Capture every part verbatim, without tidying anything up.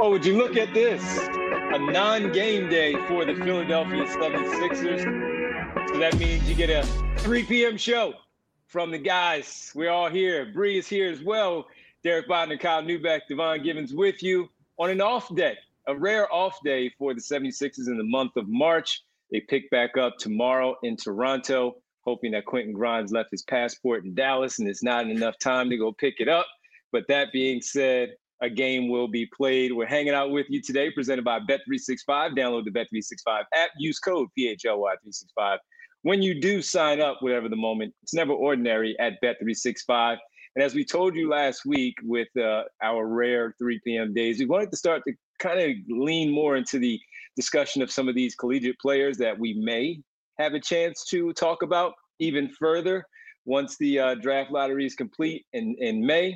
Oh, would you look at this? A non-game day for the Philadelphia seventy-sixers. So that means you get a three p.m. show from the guys. We're all here. Bree is here as well. Derek Bodner, Kyle Neubeck, Devon Givens with you on an off day, a rare off day for the seventy-sixers in the month of March. They pick back up tomorrow in Toronto, hoping that Quentin Grimes left his passport in Dallas and it's not enough time to go pick it up. But that being said, a game will be played. We're hanging out with you today, presented by Bet three sixty-five. Download the Bet three sixty-five app. Use code P H L Y three sixty-five. When you do sign up, whatever the moment, it's never ordinary at Bet three sixty-five. And as we told you last week with uh, our rare three p.m. days, we wanted to start to kind of lean more into the discussion of some of these collegiate players that we may have a chance to talk about even further once the uh, draft lottery is complete in, in May.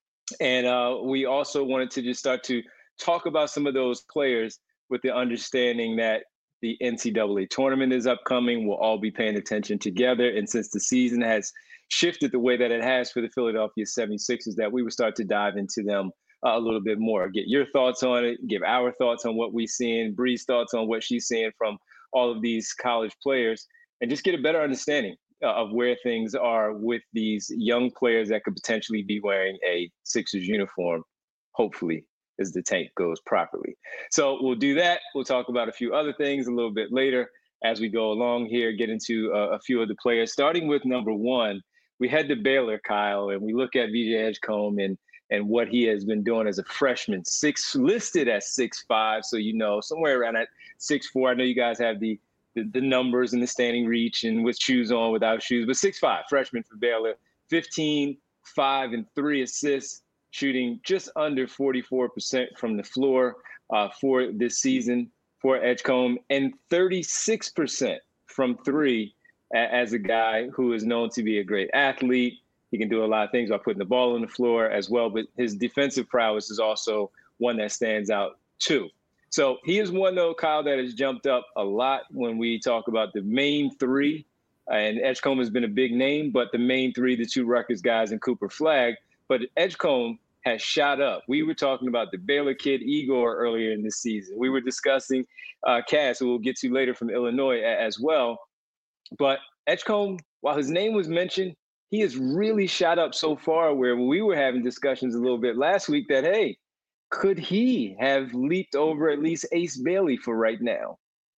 And uh, we also wanted to just start to talk about some of those players with the understanding that the N C double A tournament is upcoming. We'll all be paying attention together. And since the season has shifted the way that it has for the Philadelphia seventy-sixers, that we would start to dive into them uh, a little bit more. Get your thoughts on it. Give our thoughts on what we're seeing. Bree's thoughts on what she's seeing from all of these college players. And just get a better understanding of where things are with these young players that could potentially be wearing a Sixers uniform, hopefully, as the tank goes properly. So we'll do that. We'll talk about a few other things a little bit later as we go along here, get into uh, a few of the players. Starting with number one, we head to Baylor, Kyle, and we look at V J Edgecombe and and what he has been doing as a freshman, six listed at six five. So, you know, somewhere around at six four. I know you guys have the The, the numbers and the standing reach and with shoes on, without shoes, but six five, freshman for Baylor, fifteen, five, and three assists, shooting just under forty-four percent from the floor uh, for this season for Edgecombe, and thirty-six percent from three a- as a guy who is known to be a great athlete. He can do a lot of things by putting the ball on the floor as well, but his defensive prowess is also one that stands out too. So he is one, though, Kyle, that has jumped up a lot when we talk about the main three. And Edgecombe has been a big name, but the main three, the two Rutgers guys and Cooper Flagg. But Edgecombe has shot up. We were talking about the Baylor kid, Igor, earlier in this season. We were discussing uh, Cass, who we'll get to later from Illinois a- as well. But Edgecombe, while his name was mentioned, he has really shot up so far where we were having discussions a little bit last week that, hey, could he have leaped over at least Ace Bailey for right now?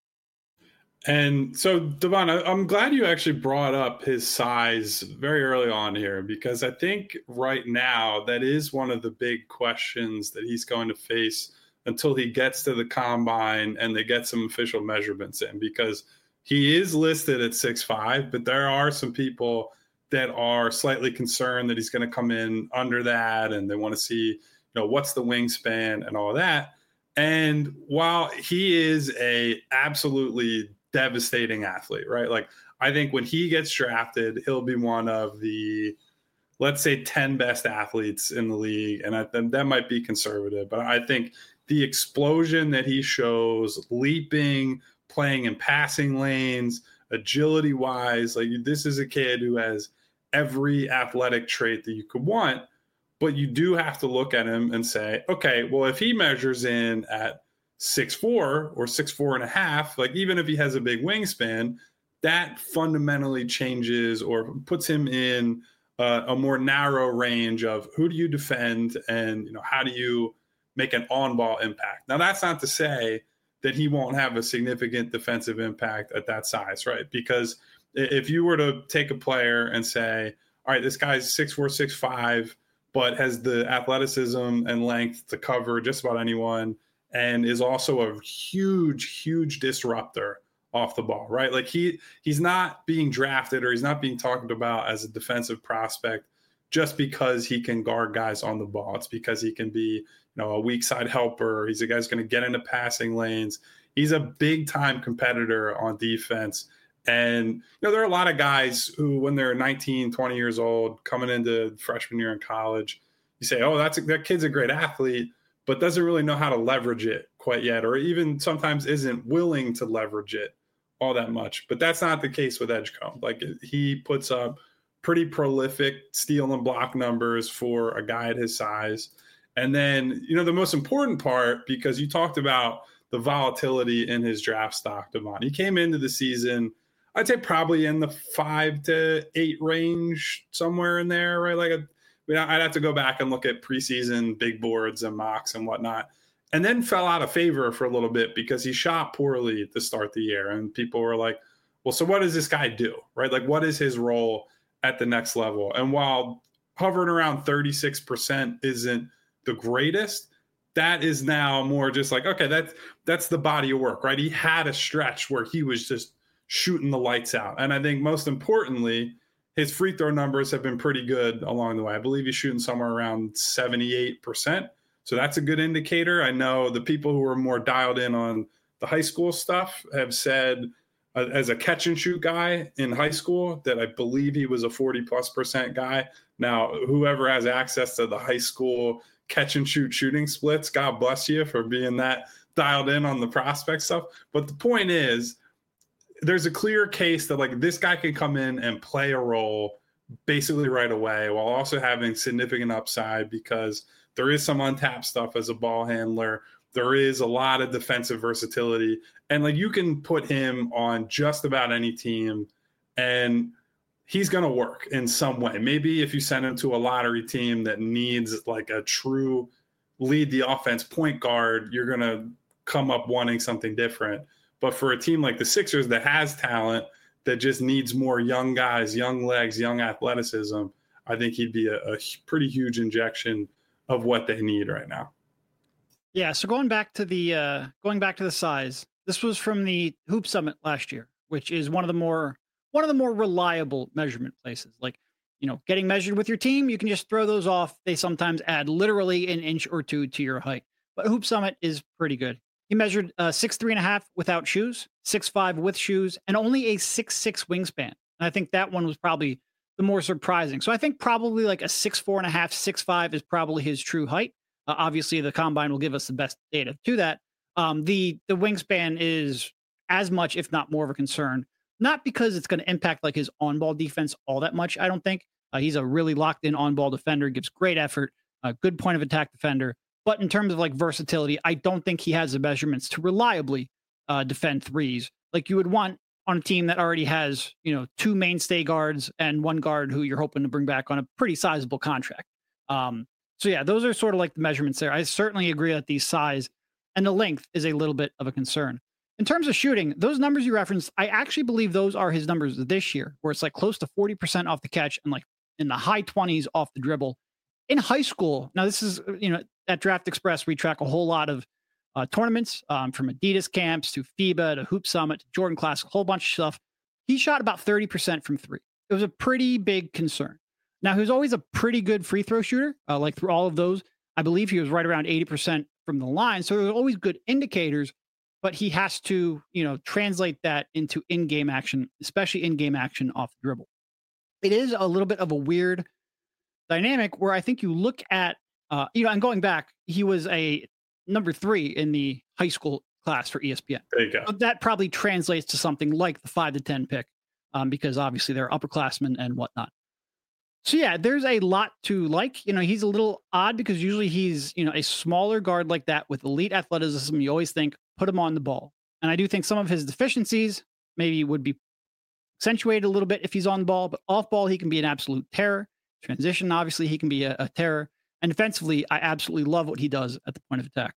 And so, Devon, I'm glad you actually brought up his size very early on here, because I think right now that is one of the big questions that he's going to face until he gets to the combine and they get some official measurements in, because he is listed at six five, but there are some people that are slightly concerned that he's going to come in under that, and they want to see, you know, what's the wingspan and all that. And while he is a absolutely devastating athlete, right? Like, I think when he gets drafted, he'll be one of the, let's say, ten best athletes in the league. And I, that might be conservative, but I think the explosion that he shows, leaping, playing in passing lanes, agility wise, like, this is a kid who has every athletic trait that you could want. But you do have to look at him and say, okay, well, if he measures in at six four or six four and a half, like, even if he has a big wingspan, that fundamentally changes or puts him in uh, a more narrow range of who do you defend and, you know, how do you make an on-ball impact. Now, that's not to say that he won't have a significant defensive impact at that size, right? Because if you were to take a player and say, all right, this guy's six four, six five, but has the athleticism and length to cover just about anyone, and is also a huge, huge disruptor off the ball, right? Like, he he's not being drafted or he's not being talked about as a defensive prospect just because he can guard guys on the ball. It's because he can be, you know, a weak side helper. He's a guy who's going to get into passing lanes. He's a big time competitor on defense. And, you know, there are a lot of guys who, when they're nineteen, twenty years old, coming into freshman year in college, you say, oh, that's a, that kid's a great athlete, but doesn't really know how to leverage it quite yet, or even sometimes isn't willing to leverage it all that much. But that's not the case with Edgecombe. Like, he puts up pretty prolific steal and block numbers for a guy at his size. And then, you know, the most important part, because you talked about the volatility in his draft stock, Devon. He came into the season, I'd say probably in the five to eight range, somewhere in there, right? Like, a, I mean, I'd have to go back and look at preseason big boards and mocks and whatnot. And then fell out of favor for a little bit because he shot poorly to start the year. And people were like, well, so what does this guy do, right? Like, what is his role at the next level? And while hovering around thirty-six percent isn't the greatest, that is now more just like, okay, that's that's the body of work, right? He had a stretch where he was just shooting the lights out. And I think most importantly, his free throw numbers have been pretty good along the way. I believe he's shooting somewhere around seventy-eight percent. So that's a good indicator. I know the people who are more dialed in on the high school stuff have said, uh, as a catch and shoot guy in high school, that I believe he was a forty plus percent guy. Now, whoever has access to the high school catch and shoot shooting splits, God bless you for being that dialed in on the prospect stuff. But the point is, there's a clear case that like this guy can come in and play a role basically right away while also having significant upside, because there is some untapped stuff as a ball handler. There is a lot of defensive versatility, and like you can put him on just about any team and he's going to work in some way. Maybe if you send him to a lottery team that needs like a true lead the offense point guard, you're going to come up wanting something different. But for a team like the Sixers that has talent, that just needs more young guys, young legs, young athleticism, I think he'd be a, a pretty huge injection of what they need right now. Yeah. So going back to the, uh, going back to the size, this was from the Hoop Summit last year, which is one of the more, one of the more reliable measurement places. Like, you know, getting measured with your team, you can just throw those off. They sometimes add literally an inch or two to your height, but Hoop Summit is pretty good. He measured uh, six, three and a half without shoes, six, five with shoes, and only a six, six wingspan. And I think that one was probably the more surprising. So I think probably like a six, four and a half, six, five is probably his true height. Uh, obviously the combine will give us the best data to that. Um, the, the wingspan is as much, if not more of a concern, not because it's going to impact like his on-ball defense all that much. I don't think uh, he's a really locked in on-ball defender, gives great effort, a good point of attack defender. But in terms of like versatility, I don't think he has the measurements to reliably uh, defend threes like you would want on a team that already has, you know, two mainstay guards and one guard who you're hoping to bring back on a pretty sizable contract. Um, so yeah, those are sort of like the measurements there. I certainly agree that the size and the length is a little bit of a concern. In terms of shooting, those numbers you referenced, I actually believe those are his numbers this year, where it's like close to forty percent off the catch and like in the high twenties off the dribble. In high school, now this is, you know, at Draft Express, we track a whole lot of uh, tournaments um, from Adidas camps to FIBA to Hoop Summit to Jordan Classic, a whole bunch of stuff. He shot about thirty percent from three. It was a pretty big concern. Now, he was always a pretty good free throw shooter. Uh, like through all of those, I believe he was right around eighty percent from the line. So there were always good indicators, but he has to, you know, translate that into in-game action, especially in-game action off the dribble. It is a little bit of a weird dynamic where I think you look at, uh, you know, and going back, he was a number three in the high school class for E S P N. There you go. So that probably translates to something like the five to ten pick, um, because obviously they're upperclassmen and whatnot. So yeah, there's a lot to like. You know, he's a little odd because usually he's, you know, a smaller guard like that with elite athleticism. You always think, put him on the ball. And I do think some of his deficiencies maybe would be accentuated a little bit if he's on the ball, but off ball, he can be an absolute terror. Transition, obviously, he can be a, a terror. And defensively, I absolutely love what he does at the point of attack.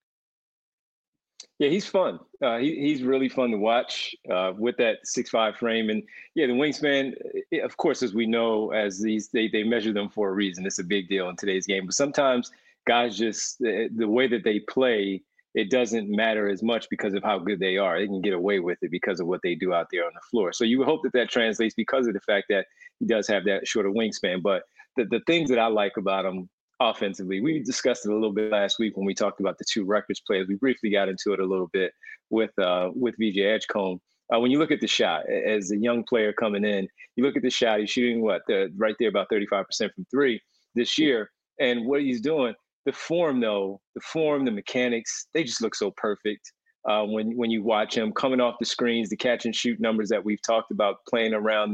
Yeah, he's fun. Uh, he, he's really fun to watch uh, with that six five frame. And yeah, the wingspan, of course, as we know, as these they, they measure them for a reason. It's a big deal in today's game. But sometimes guys just, the, the way that they play, it doesn't matter as much because of how good they are. They can get away with it because of what they do out there on the floor. So you would hope that that translates because of the fact that he does have that shorter wingspan. But the, the things that I like about him offensively, we discussed it a little bit last week when we talked about the two Rutgers players. We briefly got into it a little bit with uh, with V J Edgecombe. Uh, when you look at the shot, as a young player coming in, you look at the shot, he's shooting what, the, right there about thirty-five percent from three this year. And what he's doing, the form though, the form, the mechanics, they just look so perfect. Uh, when when you watch him coming off the screens, the catch and shoot numbers that we've talked about, playing around the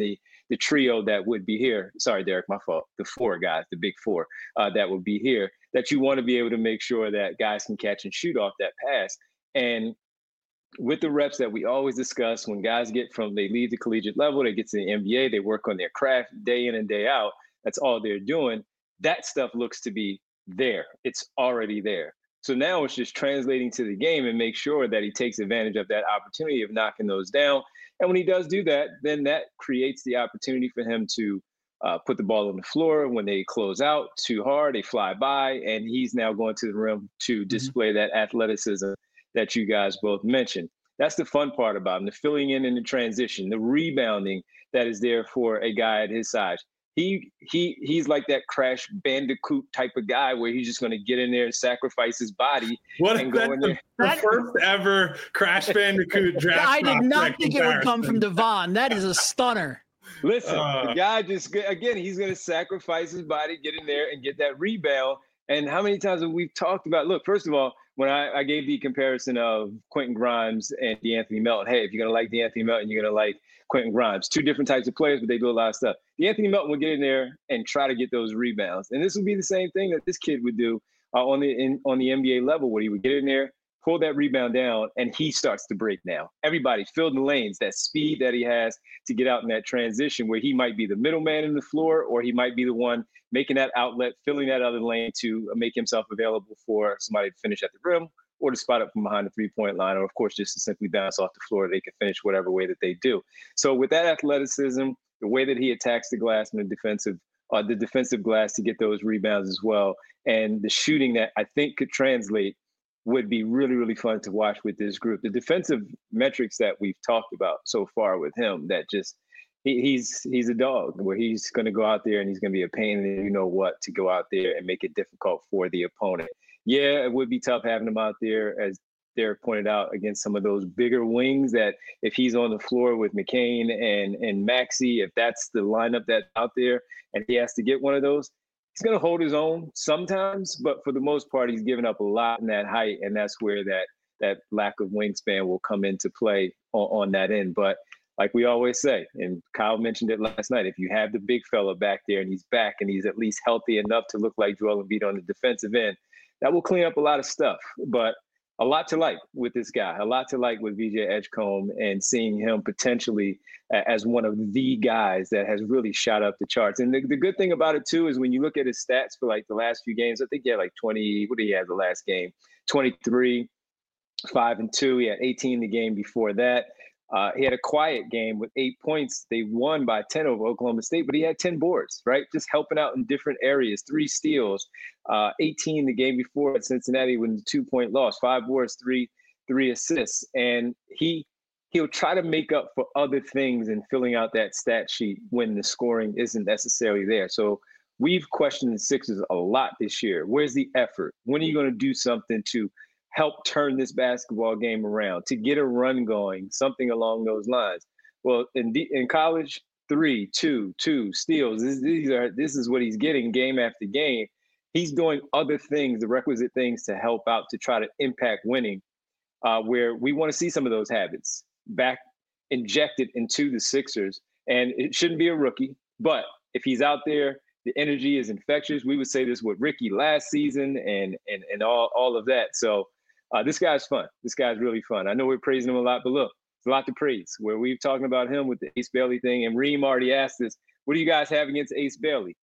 the trio that would be here. Sorry, Derek, my fault. The four guys, the big four uh, that would be here, that you want to be able to make sure that guys can catch and shoot off that pass. And with the reps that we always discuss, when guys get from, they leave the collegiate level, they get to the N B A, they work on their craft day in and day out. That's all they're doing. That stuff looks to be there. It's already there. So now it's just translating to the game and make sure that he takes advantage of that opportunity of knocking those down. And when he does do that, then that creates the opportunity for him to uh, put the ball on the floor. When they close out too hard, they fly by, and he's now going to the rim to display mm-hmm. that athleticism that you guys both mentioned. That's the fun part about him, the filling in and the transition, the rebounding that is there for a guy at his size. He he he's like that Crash Bandicoot type of guy where he's just going to get in there and sacrifice his body. What and go in there. The first ever Crash Bandicoot draft. I did not think it would come from Devon. That is a stunner. Listen, uh, the guy just again he's going to sacrifice his body, get in there and get that rebound. And how many times have we talked about? Look, first of all, when I, I gave the comparison of Quentin Grimes and DeAnthony Melton, hey, if you're going to like DeAnthony Melton, you're going to like Quentin Grimes. Two different types of players, but they do a lot of stuff. DeAnthony Melton would get in there and try to get those rebounds. And this would be the same thing that this kid would do uh, on the in, on the N B A level, where he would get in there, pull that rebound down, and he starts to break now. Everybody filled in the lanes, that speed that he has to get out in that transition where he might be the middleman in the floor, or he might be the one making that outlet, filling that other lane to make himself available for somebody to finish at the rim, or to spot up from behind the three-point line, or, of course, just to simply bounce off the floor. They can finish whatever way that they do. So with that athleticism, the way that he attacks the glass and the defensive uh, the defensive glass to get those rebounds as well, and the shooting that I think could translate would be really, really fun to watch with this group. The defensive metrics that we've talked about so far with him, that just he, he's he's a dog, where he's going to go out there and he's going to be a pain in you know what to go out there and make it difficult for the opponent. Yeah, it would be tough having him out there, as Derek pointed out, against some of those bigger wings that if he's on the floor with McCain and, and Maxey, if that's the lineup that's out there and he has to get one of those, he's going to hold his own sometimes, but for the most part, he's giving up a lot in that height, and that's where that that lack of wingspan will come into play on, on that end. But like we always say, and Kyle mentioned it last night, if you have the big fella back there and he's back and he's at least healthy enough to look like Joel Embiid on the defensive end, that will clean up a lot of stuff. But a lot to like with this guy, a lot to like with V J Edgecombe, and seeing him potentially as one of the guys that has really shot up the charts. And the, the good thing about it, too, is when you look at his stats for like the last few games, I think he had like twenty, what did he have the last game? twenty-three, five and two. He had eighteen the game before that. Uh, he had a quiet game with eight points. They won by ten over Oklahoma State, but he had ten boards, right? Just helping out in different areas, three steals, uh, eighteen the game before at Cincinnati with a two-point loss, five boards, three three assists. And he, he'll try to make up for other things in filling out that stat sheet when the scoring isn't necessarily there. So we've questioned the Sixers a lot this year. Where's the effort? When are you going to do something to help turn this basketball game around, to get a run going, something along those lines? Well, in the, in college, three, two, two steals. This, these are this is what he's getting game after game. He's doing other things, the requisite things to help out to try to impact winning, uh, where we want to see some of those habits back injected into the Sixers. And it shouldn't be a rookie, but if he's out there, the energy is infectious. We would say this with Ricky last season and and and all, all of that. So Uh, this guy's fun. This guy's really fun. I know we're praising him a lot, but look, it's a lot to praise. Where we've talking about him with the Ace Bailey thing, and Reem already asked us, what do you guys have against Ace Bailey?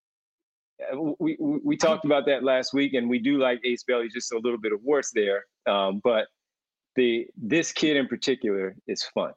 Uh, we, we we talked about that last week, and we do like Ace Bailey, just a little bit of worse there. Um, but the this kid in particular is fun.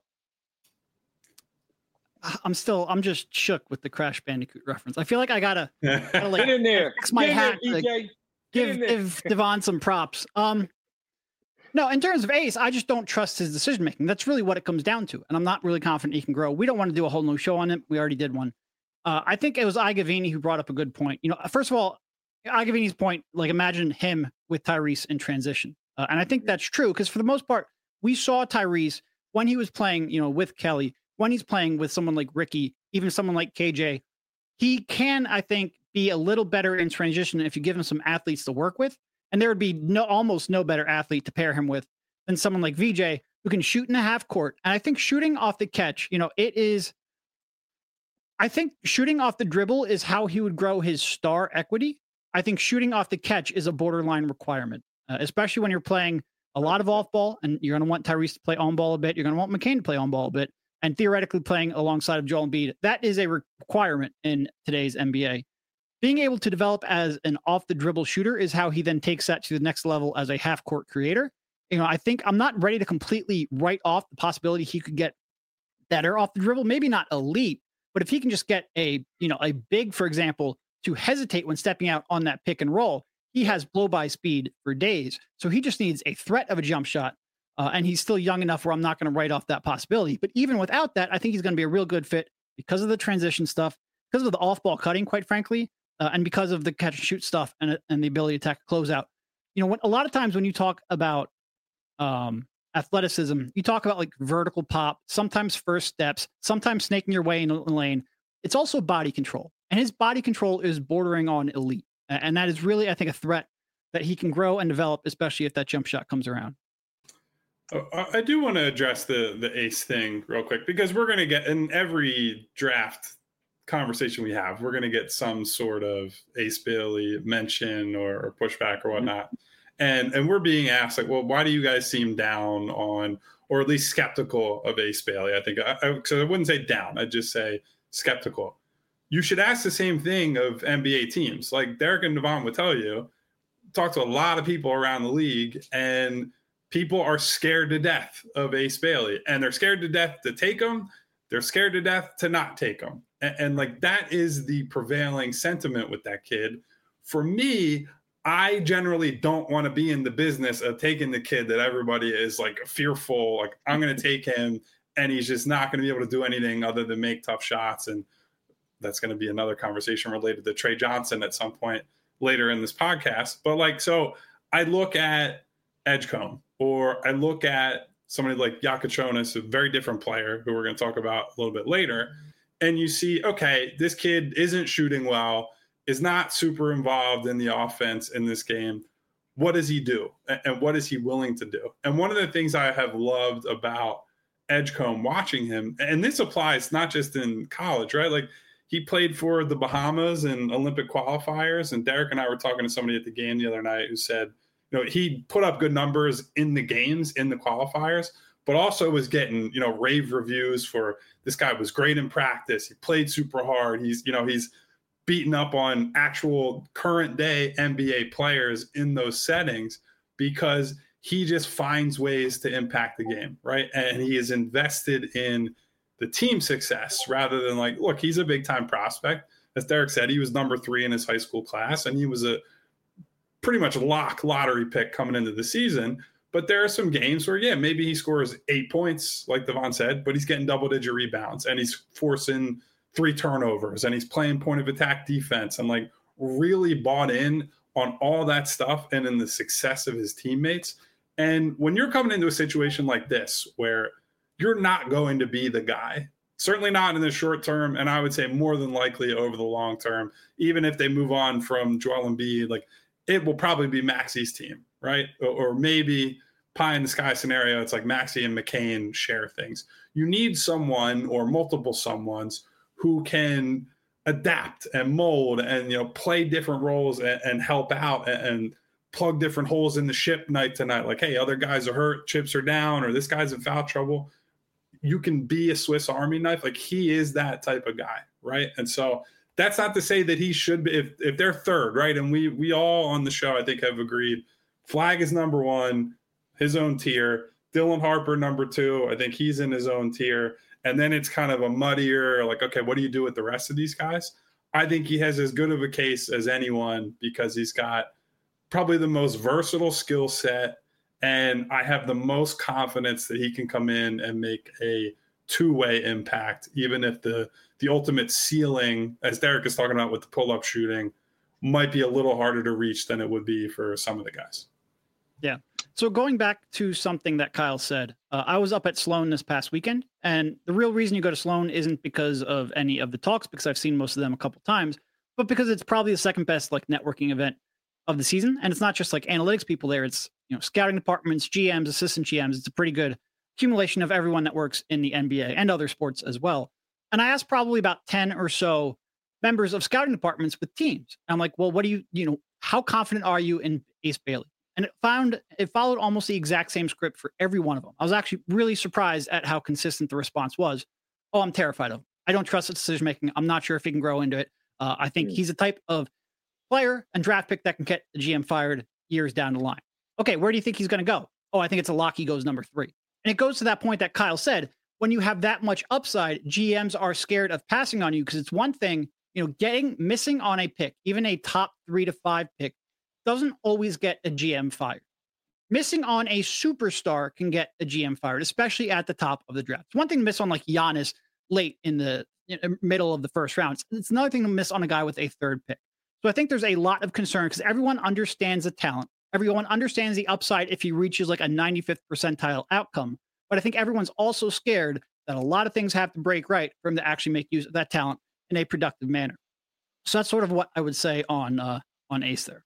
I'm still, I'm just shook with the Crash Bandicoot reference. I feel like I gotta, gotta like, get in there. Fix my Get hat. in there, D J. Like, give give Devon some props. Um. No, in terms of Ace, I just don't trust his decision making. That's really what it comes down to, and I'm not really confident he can grow. We don't want to do a whole new show on him. We already did one. Uh, I think it was Igavini who brought up a good point. You know, first of all, Igavini's point, like imagine him with Tyrese in transition, uh, and I think that's true because for the most part, we saw Tyrese when he was playing, you know, with Kelly, when he's playing with someone like Ricky, even someone like K J. He can, I think, be a little better in transition if you give him some athletes to work with. And there would be no, almost no better athlete to pair him with than someone like V J who can shoot in a half court. And I think shooting off the catch, you know, it is, I think shooting off the dribble is how he would grow his star equity. I think shooting off the catch is a borderline requirement, uh, especially when you're playing a lot of off ball and you're going to want Tyrese to play on ball a bit. You're going to want McCain to play on ball a bit, and theoretically playing alongside of Joel Embiid. That is a requirement in today's N B A. Being able to develop as an off the dribble shooter is how he then takes that to the next level as a half court creator. You know, I think I'm not ready to completely write off the possibility he could get better off the dribble, maybe not elite, but if he can just get a, you know, a big, for example, to hesitate when stepping out on that pick and roll, he has blow by speed for days. So he just needs a threat of a jump shot. Uh, and he's still young enough where I'm not going to write off that possibility. But even without that, I think he's going to be a real good fit because of the transition stuff, because of the off ball cutting, quite frankly, uh, and because of the catch and shoot stuff and, and the ability to attack closeout. You know, when, a lot of times when you talk about um, athleticism, you talk about like vertical pop, sometimes first steps, sometimes snaking your way in a lane. It's also body control. And his body control is bordering on elite. And that is really, I think, a threat that he can grow and develop, especially if that jump shot comes around. I do want to address the the ace thing real quick, because we're going to get in every draft conversation we have, we're going to get some sort of Ace Bailey mention or, or pushback or whatnot. Mm-hmm. And and we're being asked, like, well, why do you guys seem down on, or at least skeptical of Ace Bailey? I think, I, I, so I wouldn't say down, I'd just say skeptical. You should ask the same thing of N B A teams. Like Derek and Devon would tell you, talk to a lot of people around the league, and people are scared to death of Ace Bailey, and they're scared to death to take him. They're scared to death to not take him. And, and like, that is the prevailing sentiment with that kid. For me, I generally don't want to be in the business of taking the kid that everybody is like fearful, like I'm going to take him and he's just not going to be able to do anything other than make tough shots. And that's going to be another conversation related to Trey Johnson at some point later in this podcast. But like, so I look at Edgecombe, or I look at somebody like Yakachonis, a very different player who we're going to talk about a little bit later. And you see, okay, this kid isn't shooting well, is not super involved in the offense in this game. What does he do? And what is he willing to do? And one of the things I have loved about Edgecombe watching him, and this applies not just in college, right? Like, he played for the Bahamas in Olympic qualifiers. And Derek and I were talking to somebody at the game the other night who said, you know, he put up good numbers in the games, in the qualifiers, but also was getting, you know, rave reviews for this guy was great in practice. He played super hard. He's, you know, he's beaten up on actual current day N B A players in those settings because he just finds ways to impact the game, right? And he is invested in the team success rather than like, look, he's a big time prospect. As Derek said, he was number three in his high school class, and he was a pretty much lock lottery pick coming into the season. But there are some games where, yeah, maybe he scores eight points, like Devon said, but he's getting double digit rebounds and he's forcing three turnovers and he's playing point of attack defense and like really bought in on all that stuff and in the success of his teammates. And when you're coming into a situation like this, where you're not going to be the guy, certainly not in the short term, and I would say more than likely over the long term, even if they move on from Joel Embiid, like it will probably be Maxi's team, right? Or, or maybe pie in the sky scenario, it's like Maxi and McCain share things. You need someone or multiple someones who can adapt and mold and, you know, play different roles and, and help out and, and plug different holes in the ship night to night. Like, hey, other guys are hurt, chips are down, or this guy's in foul trouble. You can be a Swiss Army knife. Like, he is that type of guy, right? And so that's not to say that he should be, if, if they're third, right? And we we all on the show, I think, have agreed, Flag is number one, his own tier. Dylan Harper, number two. I think he's in his own tier. And then it's kind of a muddier, like, okay, what do you do with the rest of these guys? I think he has as good of a case as anyone because he's got probably the most versatile skill set. And I have the most confidence that he can come in and make a two-way impact, even if the the ultimate ceiling, as Derek is talking about with the pull-up shooting, might be a little harder to reach than it would be for some of the guys. Yeah. So going back to something that Kyle said, uh, I was up at Sloan this past weekend, and the real reason you go to Sloan isn't because of any of the talks, because I've seen most of them a couple times, but because it's probably the second best like networking event of the season. And it's not just like analytics people there. It's, you know, scouting departments, G Ms, assistant G Ms. It's a pretty good accumulation of everyone that works in the N B A and other sports as well. And I asked probably about ten or so members of scouting departments with teams. I'm like, well, what do you, you know, how confident are you in Ace Bailey? And it found, it followed almost the exact same script for every one of them. I was actually really surprised at how consistent the response was. Oh, I'm terrified of him. I don't trust his decision making. I'm not sure if he can grow into it. Uh, I think mm. he's a type of player and draft pick that can get the G M fired years down the line. Okay, where do you think he's going to go? Oh, I think it's a lock. He goes number three. And it goes to that point that Kyle said, when you have that much upside, G Ms are scared of passing on you because it's one thing, you know, getting missing on a pick, even a top three to five pick, doesn't always get a G M fired. Missing on a superstar can get a G M fired, especially at the top of the draft. It's one thing to miss on like Giannis late in the you know, middle of the first round. It's, it's another thing to miss on a guy with a third pick. So I think there's a lot of concern because everyone understands the talent. Everyone understands the upside if he reaches like a ninety-fifth percentile outcome. But I think everyone's also scared that a lot of things have to break right for him to actually make use of that talent in a productive manner. So that's sort of what I would say on uh, on Ace there.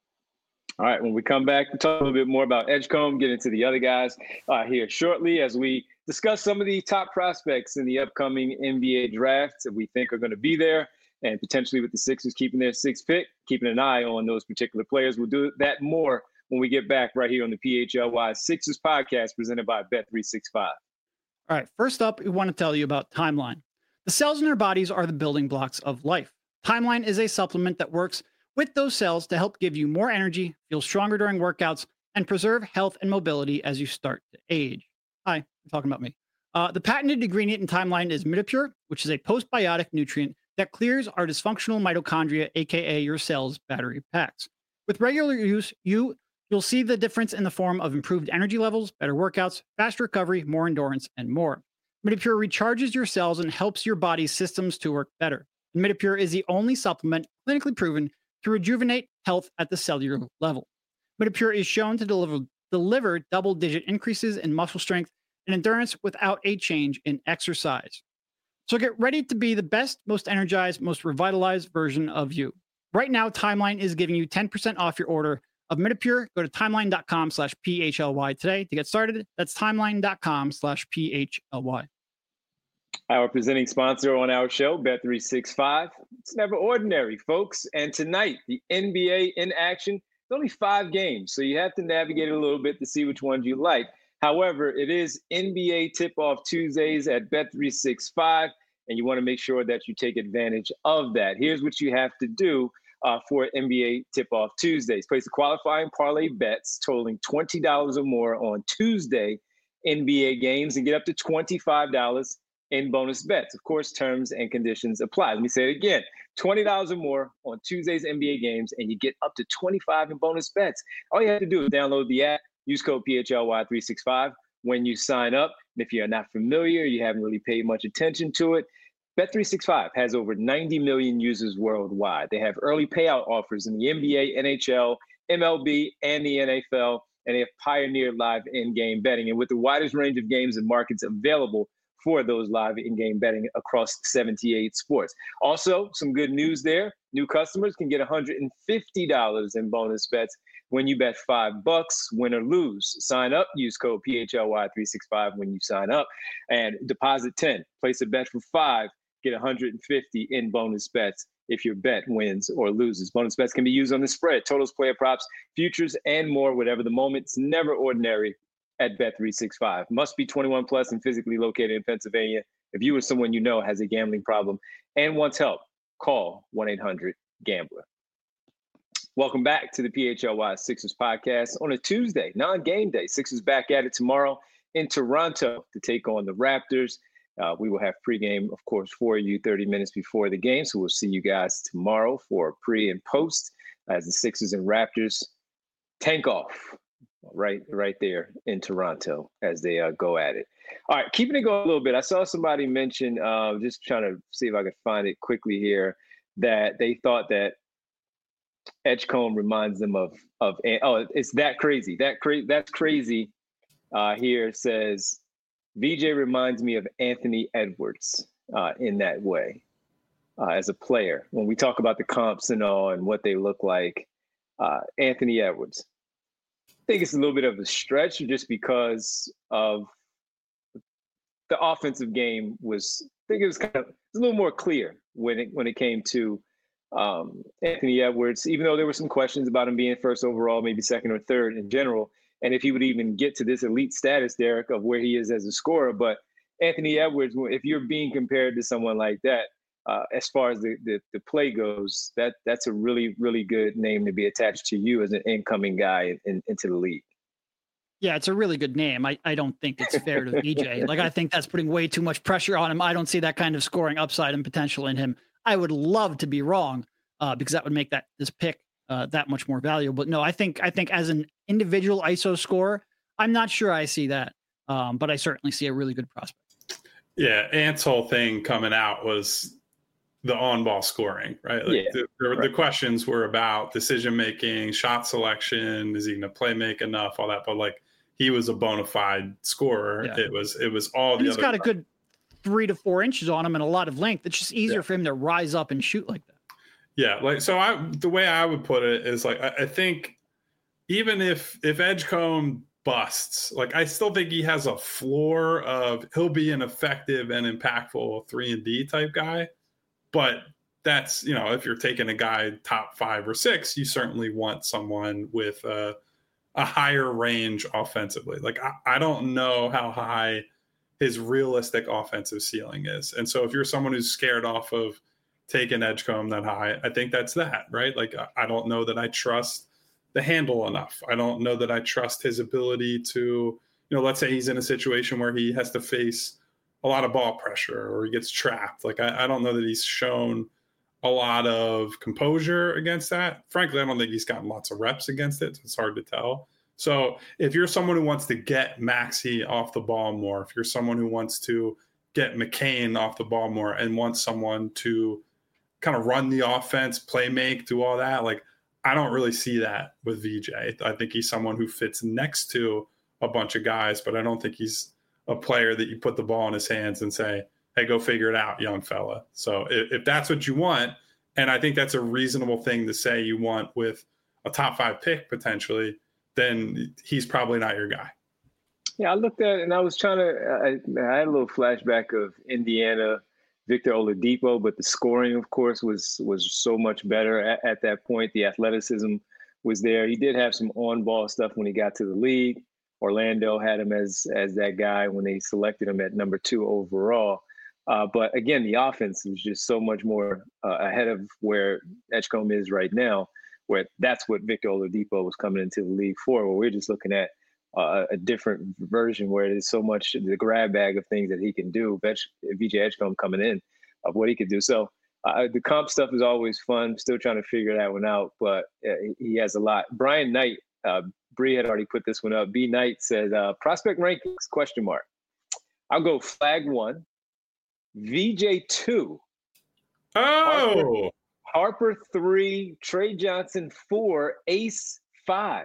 All right, when we come back, we'll talk a little bit more about Edgecombe, get into the other guys uh, here shortly as we discuss some of the top prospects in the upcoming N B A draft that we think are going to be there, and potentially with the Sixers keeping their sixth pick, keeping an eye on those particular players. We'll do that more when we get back right here on the P H L Y Sixers podcast presented by Bet three sixty-five. All right, first up, we want to tell you about Timeline. The cells in our bodies are the building blocks of life. Timeline is a supplement that works with those cells to help give you more energy, feel stronger during workouts, and preserve health and mobility as you start to age. Hi, I'm talking about me. Uh, the patented ingredient in Timeline is Midopure, which is a postbiotic nutrient that clears our dysfunctional mitochondria, aka your cell's battery packs. With regular use, you, you'll see the difference in the form of improved energy levels, better workouts, faster recovery, more endurance, and more. Midopure recharges your cells and helps your body's systems to work better. And Midopure is the only supplement clinically proven to rejuvenate health at the cellular level. Midopure is shown to deliver, deliver double-digit increases in muscle strength and endurance without a change in exercise. So get ready to be the best, most energized, most revitalized version of you. Right now, Timeline is giving you ten percent off your order of Midopure. Go to timeline.com slash PHLY today to get started. That's timeline.com slash PHLY. Our presenting sponsor on our show, Bet three sixty-five. It's never ordinary, folks. And tonight, the N B A in action. It's only five games, so you have to navigate it a little bit to see which ones you like. However, it is N B A Tip-Off Tuesdays at Bet three sixty-five, and you want to make sure that you take advantage of that. Here's what you have to do uh, for N B A Tip-Off Tuesdays. Place the qualifying parlay bets totaling twenty dollars or more on Tuesday N B A games and get up to twenty-five dollars in bonus bets. Of course, terms and conditions apply. Let me say it again. twenty dollars or more on Tuesday's N B A games, and you get up to twenty-five dollars in bonus bets. All you have to do is download the app, use code P H L Y three sixty-five when you sign up. And if you're not familiar, you haven't really paid much attention to it, Bet three sixty-five has over ninety million users worldwide. They have early payout offers in the N B A, N H L, M L B, and the N F L, and they have pioneered live in-game betting. And with the widest range of games and markets available for those live in-game betting across seventy-eight sports. Also, some good news there. New customers can get one hundred fifty dollars in bonus bets when you bet five bucks, win or lose. Sign up, use code P H L Y three sixty-five when you sign up, and deposit ten. Place a bet for five, get one hundred fifty in bonus bets if your bet wins or loses. Bonus bets can be used on the spread, totals, player props, futures, and more, whatever the moment. It's never ordinary at Bet three sixty-five. Must be twenty-one plus and physically located in Pennsylvania. If you or someone you know has a gambling problem and wants help, call one eight hundred gambler. Welcome back to the P H L Y Sixers podcast on a Tuesday, non-game day. Sixers back at it tomorrow in Toronto to take on the Raptors. Uh, we will have pregame, of course, for you thirty minutes before the game. So we'll see you guys tomorrow for pre and post as the Sixers and Raptors tank off right right there in Toronto as they uh, go at it. All right, keeping it going a little bit. I saw somebody mention, uh, just trying to see if I could find it quickly here, that they thought that Edgecombe reminds them of, of oh, it's that crazy. That cra- That's crazy. Uh, here it says, V J reminds me of Anthony Edwards uh, in that way uh, as a player. When we talk about the comps and all and what they look like, uh, Anthony Edwards. I think it's a little bit of a stretch just because of the offensive game was think it was kind of it's a little more clear when it when it came to um, Anthony Edwards, even though there were some questions about him being first overall, maybe second or third in general, and if he would even get to this elite status, Derek, of where he is as a scorer. But Anthony Edwards, if you're being compared to someone like that, uh, as far as the, the the play goes, that that's a really, really good name to be attached to you as an incoming guy in, into the league. Yeah, it's a really good name. I, I don't think it's fair to V J. Like, I think that's putting way too much pressure on him. I don't see that kind of scoring upside and potential in him. I would love to be wrong uh, because that would make that this pick uh, that much more valuable. But no, I think I think as an individual I S O scorer, I'm not sure I see that. Um, but I certainly see a really good prospect. Yeah, Ant's whole thing coming out was the on-ball scoring, right? Like yeah, the, the, right. the questions were about decision-making, shot selection, is he going to play make enough, all that. But like, he was a bona fide scorer. Yeah. It was it was all and the he's other got stuff. a good three to four inches on him and a lot of length. It's just easier Yeah. for him to rise up and shoot like that. Yeah, like so I the way I would put it is like I, I think even if if Edgecombe busts, like I still think he has a floor of he'll be an effective and impactful three and D type guy. But that's, you know, if you're taking a guy top five or six, you certainly want someone with a, a higher range offensively. Like, I, I don't know how high his realistic offensive ceiling is. And so if you're someone who's scared off of taking Edgecombe that high, I think that's that, right? Like, I, I don't know that I trust the handle enough. I don't know that I trust his ability to, you know, let's say he's in a situation where he has to face a lot of ball pressure or he gets trapped. Like, I, I don't know that he's shown a lot of composure against that. Frankly, I don't think he's gotten lots of reps against it. So it's hard to tell. So if you're someone who wants to get Maxey off the ball more, if you're someone who wants to get McCain off the ball more and wants someone to kind of run the offense, play make, do all that, like, I don't really see that with V J. I think he's someone who fits next to a bunch of guys, but I don't think he's a player that you put the ball in his hands and say, hey, go figure it out, young fella. So if, if that's what you want, and I think that's a reasonable thing to say you want with a top five pick potentially, then he's probably not your guy. Yeah, I looked at it and I was trying to, I, I had a little flashback of Indiana, Victor Oladipo, but the scoring, of course, was was so much better at, at that point. The athleticism was there. He did have some on-ball stuff when he got to the league. Orlando had him as as that guy when they selected him at number two overall. Uh, but again, the offense was just so much more uh, ahead of where Edgecombe is right now, where that's what Victor Oladipo was coming into the league for, where we're just looking at uh, a different version where there's so much the grab bag of things that he can do. V J Edgecombe coming in of what he could do. So uh, the comp stuff is always fun. Still trying to figure that one out, but uh, he has a lot. Brian Knight, uh, Bree had already put this one up. B Knight said, uh, prospect rankings, question mark. I'll go flag one, V J two. Oh! Harper, Harper three, Trey Johnson four, Ace five.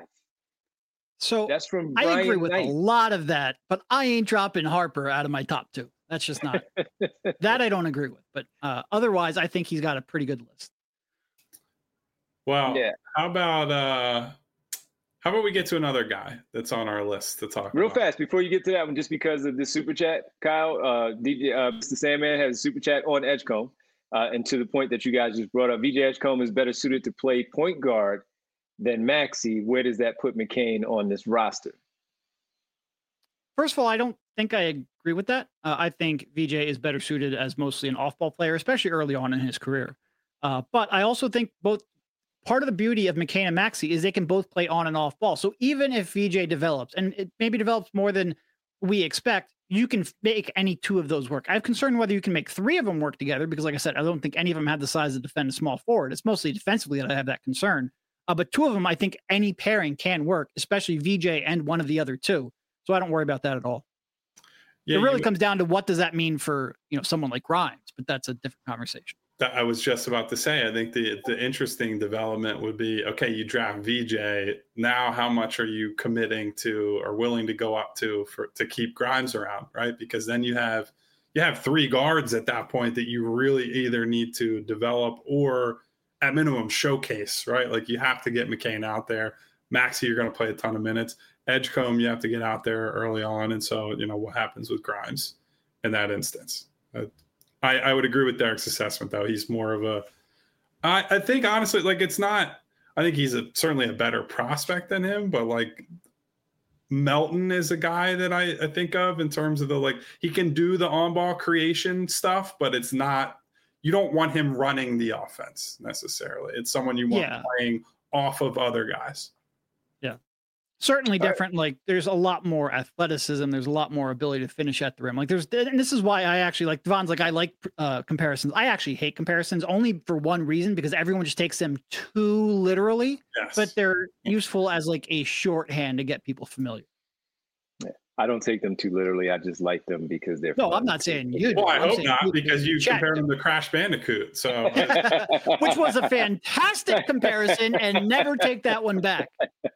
So that's from Brian I agree with Knight. A lot of that, but I ain't dropping Harper out of my top two. That's just not that I don't agree with. But uh, otherwise, I think he's got a pretty good list. Well, yeah. how about uh, how about we get to another guy that's on our list to talk real about? fast before you get to that one, just because of the super chat, Kyle, uh, D J, uh, Mister Sandman has a super chat on Edgecombe, uh, and to the point that you guys just brought up, V J Edgecombe is better suited to play point guard than Maxey. Where does that put McCain on this roster? First of all, I don't think I agree with that. Uh, I think V J is better suited as mostly an off-ball player, especially early on in his career. Uh, but I also think both part of the beauty of McCain and Maxey is they can both play on and off ball. So even if V J develops, and it maybe develops more than we expect, you can make any two of those work. I have concern whether you can make three of them work together because, like I said, I don't think any of them have the size to defend a small forward. It's mostly defensively that I have that concern. Uh, but two of them, I think any pairing can work, especially V J and one of the other two. So I don't worry about that at all. Yeah, it really you, comes down to what does that mean for, you know, someone like Grimes, but that's a different conversation. I was just about to say, I think the the interesting development would be, okay, you draft V J. Now, how much are you committing to or willing to go up to for to keep Grimes around, right? Because then you have you have three guards at that point that you really either need to develop or at minimum showcase, right? Like you have to get McCain out there. Maxey, you're going to play a ton of minutes. Edgecombe, you have to get out there early on. And so, you know, what happens with Grimes in that instance? Uh, I, I would agree with Derek's assessment, though. He's more of a, I, I think, honestly, like, it's not, I think he's a, certainly a better prospect than him, but like Melton is a guy that I, I think of in terms of the, like, he can do the on-ball creation stuff, but it's not, you don't want him running the offense necessarily. It's someone you want yeah. playing off of other guys. Yeah. Certainly different. Right. Like there's a lot more athleticism. There's a lot more ability to finish at the rim. Like there's, and this is why I actually like Devon's like, I like uh, comparisons. I actually hate comparisons only for one reason, because everyone just takes them too literally, yes. but they're useful as like a shorthand to get people familiar. I don't take them too literally. I just like them because they're No, fun. I'm not saying you do. Well, I I'm hope not, you, because you compare them to Crash Bandicoot. So, which was a fantastic comparison, and never take that one back.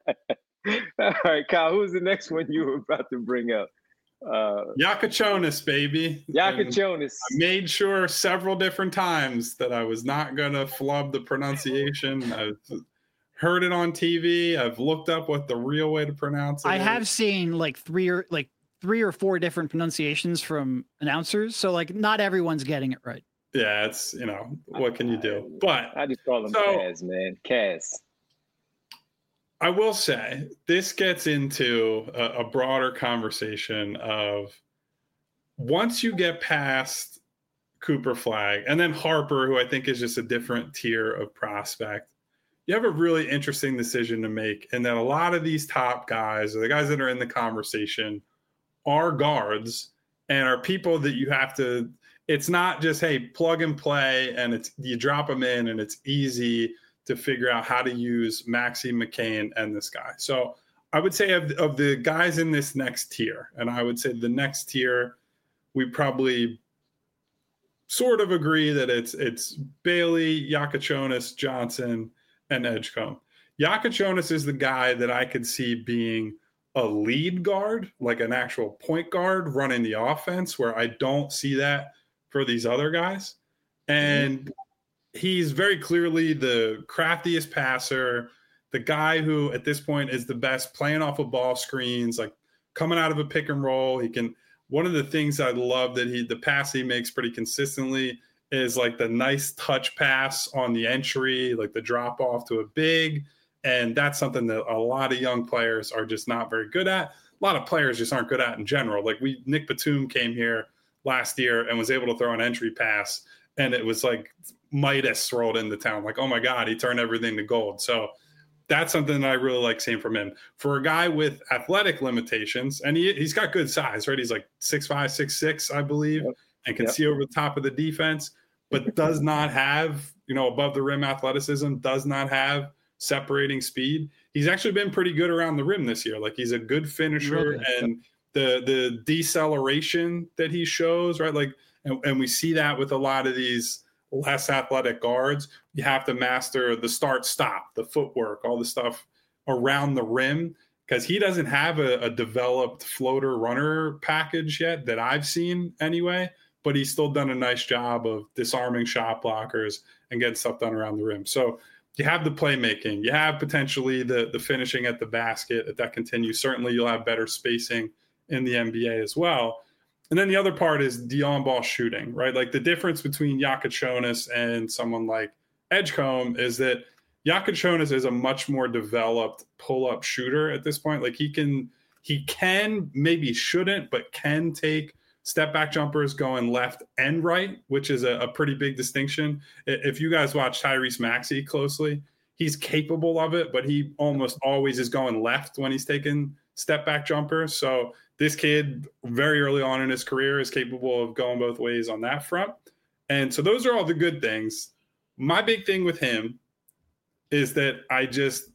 All right, Kyle, who's the next one you were about to bring up? Uh, Yakachonis, baby. Yakachonis. I made sure several different times that I was not going to flub the pronunciation. I've heard it on T V. I've looked up what the real way to pronounce it I is. have seen like three or like three or four different pronunciations from announcers. So like not everyone's getting it right. Yeah, it's, you know, what can you do? But I just call him so, Kaz, man. Kaz. I will say this gets into a, a broader conversation of once you get past Cooper Flagg and then Harper, who I think is just a different tier of prospect, you have a really interesting decision to make. And that a lot of these top guys, or the guys that are in the conversation, are guards and are people that you have to, it's not just, hey, plug and play and it's, you drop them in and it's easy to figure out how to use Maxey, McCain, and this guy. So I would say of, of the guys in this next tier, and I would say the next tier, we probably sort of agree that it's it's Bailey, Yakachonis, Johnson, and Edgecombe. Yakachonis is the guy that I could see being a lead guard, like an actual point guard running the offense, where I don't see that for these other guys. And he's very clearly the craftiest passer, the guy who at this point is the best playing off of ball screens, like coming out of a pick and roll. He can, one of the things I love that he, the pass he makes pretty consistently is like the nice touch pass on the entry, like the drop off to a big. And that's something that a lot of young players are just not very good at. A lot of players just aren't good at in general. Like we, Nick Batum came here last year and was able to throw an entry pass, and it was like Midas rolled into town. Like, oh my God, he turned everything to gold. So that's something that I really like seeing from him. For a guy with athletic limitations, and he, he's got good size, right? He's like six five, six six, I believe, yep. and can yep. see over the top of the defense, but does not have, you know, above the rim athleticism, does not have separating speed. He's actually been pretty good around the rim this year. Like he's a good finisher, really? and the the deceleration that he shows, right? Like, and, and we see that with a lot of these less athletic guards. You have to master the start stop, the footwork, all the stuff around the rim, because he doesn't have a, a developed floater runner package yet that I've seen anyway, but he's still done a nice job of disarming shot blockers and getting stuff done around the rim. So you have the playmaking, you have potentially the the finishing at the basket. If that continues, certainly you'll have better spacing in the N B A as well. And then the other part is the on-ball shooting, right? Like the difference between Yakachonis and someone like Edgecombe is that Yakachonis is a much more developed pull-up shooter at this point. Like he can, he can, maybe shouldn't, but can take step-back jumpers going left and right, which is a, a pretty big distinction. If you guys watch Tyrese Maxey closely, he's capable of it, but he almost always is going left when he's taking step-back jumpers. So this kid very early on in his career is capable of going both ways on that front. And so those are all the good things. My big thing with him is that I just,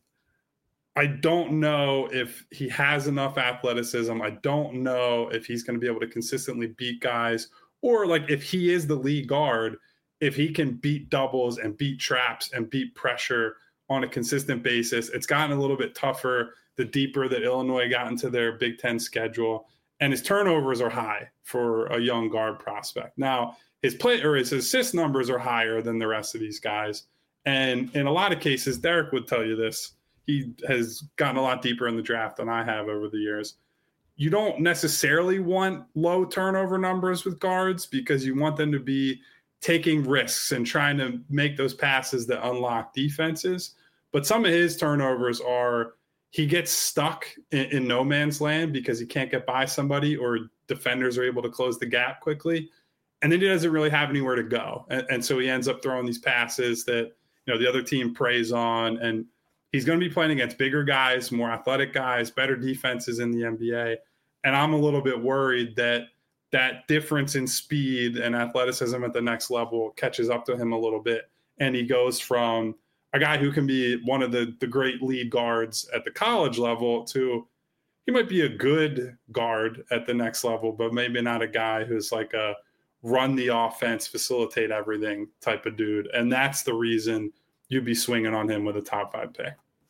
I don't know if he has enough athleticism. I don't know if he's going to be able to consistently beat guys, or like if he is the lead guard, if he can beat doubles and beat traps and beat pressure on a consistent basis. It's gotten a little bit tougher the deeper that Illinois got into their Big Ten schedule, and his turnovers are high for a young guard prospect. Now, his play or his assist numbers are higher than the rest of these guys. And in a lot of cases, Derek would tell you this, he has gotten a lot deeper in the draft than I have over the years. You don't necessarily want low turnover numbers with guards because you want them to be taking risks and trying to make those passes that unlock defenses. But some of his turnovers are he gets stuck in, in no man's land because he can't get by somebody or defenders are able to close the gap quickly. And then he doesn't really have anywhere to go. And, and so he ends up throwing these passes that, you know, the other team preys on. And he's going to be playing against bigger guys, more athletic guys, better defenses in the N B A. And I'm a little bit worried that that difference in speed and athleticism at the next level catches up to him a little bit. And he goes from a guy who can be one of the, the great lead guards at the college level to he might be a good guard at the next level, but maybe not a guy who's like a run the offense, facilitate everything type of dude. And that's the reason you'd be swinging on him with a top five pick.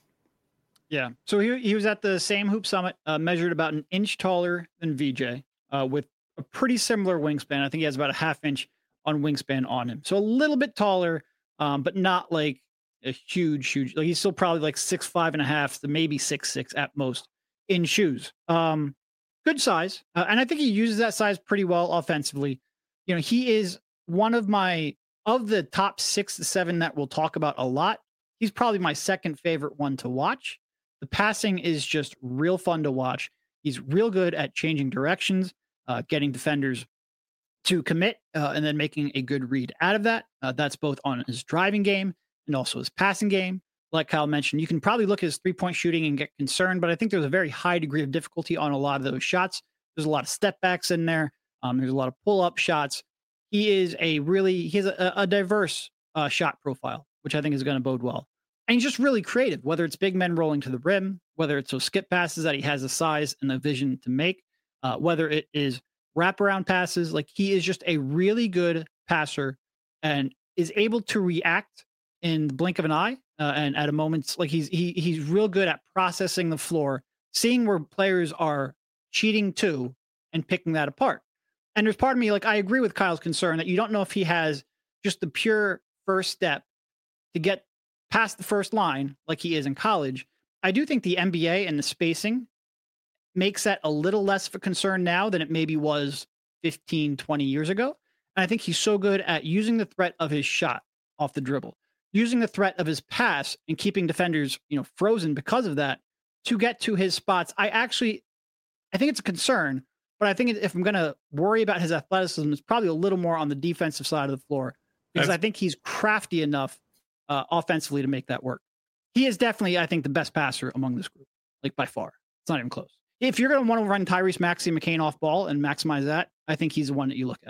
Yeah. So he, he was at the same Hoop Summit, uh, measured about an inch taller than V J, uh, with a pretty similar wingspan. I think he has about a half inch on wingspan on him. So a little bit taller, um, but not like a huge, huge, like he's still probably like six, five and a half to maybe six, six at most in shoes. Um, good size. Uh, and I think he uses that size pretty well offensively. You know, he is one of my, of the top six to seven that we'll talk about a lot. He's probably my second favorite one to watch. The passing is just real fun to watch. He's real good at changing directions, uh, getting defenders to commit, uh, and then making a good read out of that. Uh, that's both on his driving game and also his passing game. Like Kyle mentioned, you can probably look at his three-point shooting and get concerned, but I think there's a very high degree of difficulty on a lot of those shots. There's a lot of step backs in there. Um, there's a lot of pull-up shots. He is a really, he has a, a diverse uh, shot profile, which I think is going to bode well. And he's just really creative, whether it's big men rolling to the rim, whether it's those skip passes that he has the size and the vision to make, uh, whether it is wraparound passes. Like, he is just a really good passer and is able to react in the blink of an eye. Uh, and at a moment's, like, he's he he's real good at processing the floor, seeing where players are cheating to, and picking that apart. And there's part of me, like, I agree with Kyle's concern that you don't know if he has just the pure first step to get past the first line like he is in college. I do think the N B A and the spacing makes that a little less of a concern now than it maybe was fifteen, twenty years ago. And I think he's so good at using the threat of his shot off the dribble, using the threat of his pass and keeping defenders, you know, frozen because of that to get to his spots. I actually, I think it's a concern, but I think if I'm going to worry about his athleticism, it's probably a little more on the defensive side of the floor, because That's- I think he's crafty enough uh, offensively to make that work. He is definitely, I think, the best passer among this group, like by far. It's not even close. If you're going to want to run Tyrese Maxey McCain off ball and maximize that, I think he's the one that you look at.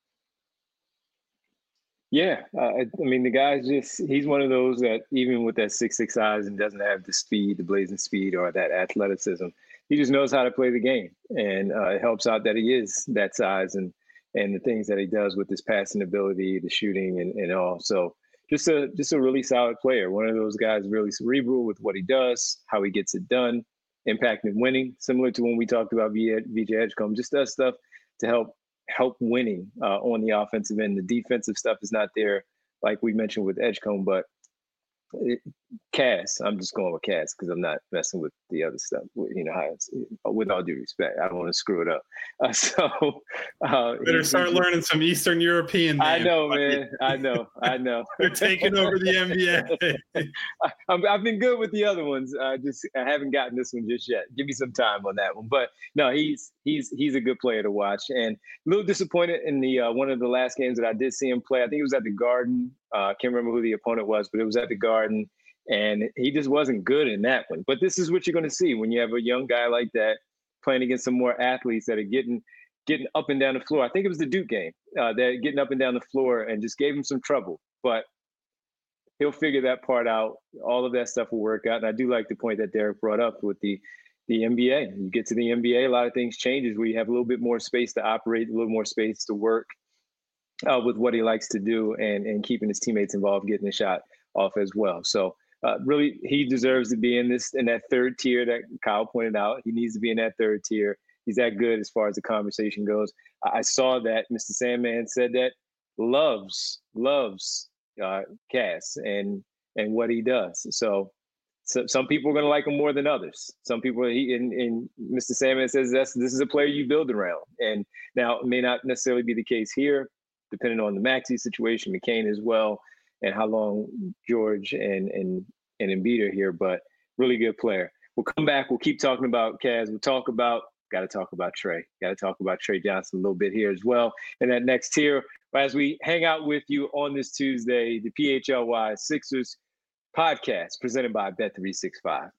Yeah, uh, I, I mean, the guy's just, he's one of those that even with that six six size and doesn't have the speed, the blazing speed or that athleticism, he just knows how to play the game. And uh, it helps out that he is that size and and the things that he does with his passing ability, the shooting and, and all. So just a just a really solid player. One of those guys really cerebral with what he does, how he gets it done, impact and winning, similar to when we talked about V J Edgecombe, just does stuff to help help winning uh, on the offensive end. The defensive stuff is not there, like we mentioned with Edgecombe, but it, Cass, I'm just going with Cass because I'm not messing with the other stuff. You know, how it's, with all due respect, I don't want to screw it up. Uh, so, uh, better he, start he, learning some Eastern European names. I know, man. I know. I know. You're taking over the N B A. I, I've been good with the other ones. I just I haven't gotten this one just yet. Give me some time on that one. But no, he's he's he's a good player to watch, and a little disappointed in the uh, one of the last games that I did see him play. I think it was at the Garden. I uh, can't remember who the opponent was, but it was at the Garden. And he just wasn't good in that one. But this is what you're going to see when you have a young guy like that playing against some more athletes that are getting getting up and down the floor. I think it was the Duke game. Uh, they're getting up and down the floor and just gave him some trouble. But he'll figure that part out. All of that stuff will work out. And I do like the point that Derek brought up with the, the N B A. You get to the N B A, a lot of things changes where you have a little bit more space to operate, a little more space to work uh, with what he likes to do and, and keeping his teammates involved, getting a shot off as well. So Uh, really, he deserves to be in this in that third tier that Kyle pointed out. He needs to be in that third tier. He's that good as far as the conversation goes. I, I saw that Mister Sandman said that loves loves uh, Cass and and what he does. So, so some people are going to like him more than others. Some people, he and, and Mister Sandman says that's this is a player you build around. And now it may not necessarily be the case here. depending on the Maxey situation, McCain as well, and how long George and and and Embiid are here. But really good player. We'll come back. We'll keep talking about Cavs. We'll talk about. Got to talk about Trey. Got to talk about Trey Johnson a little bit here as well. And that next tier, as we hang out with you on this Tuesday, the P H L Y Sixers podcast presented by Bet three sixty-five.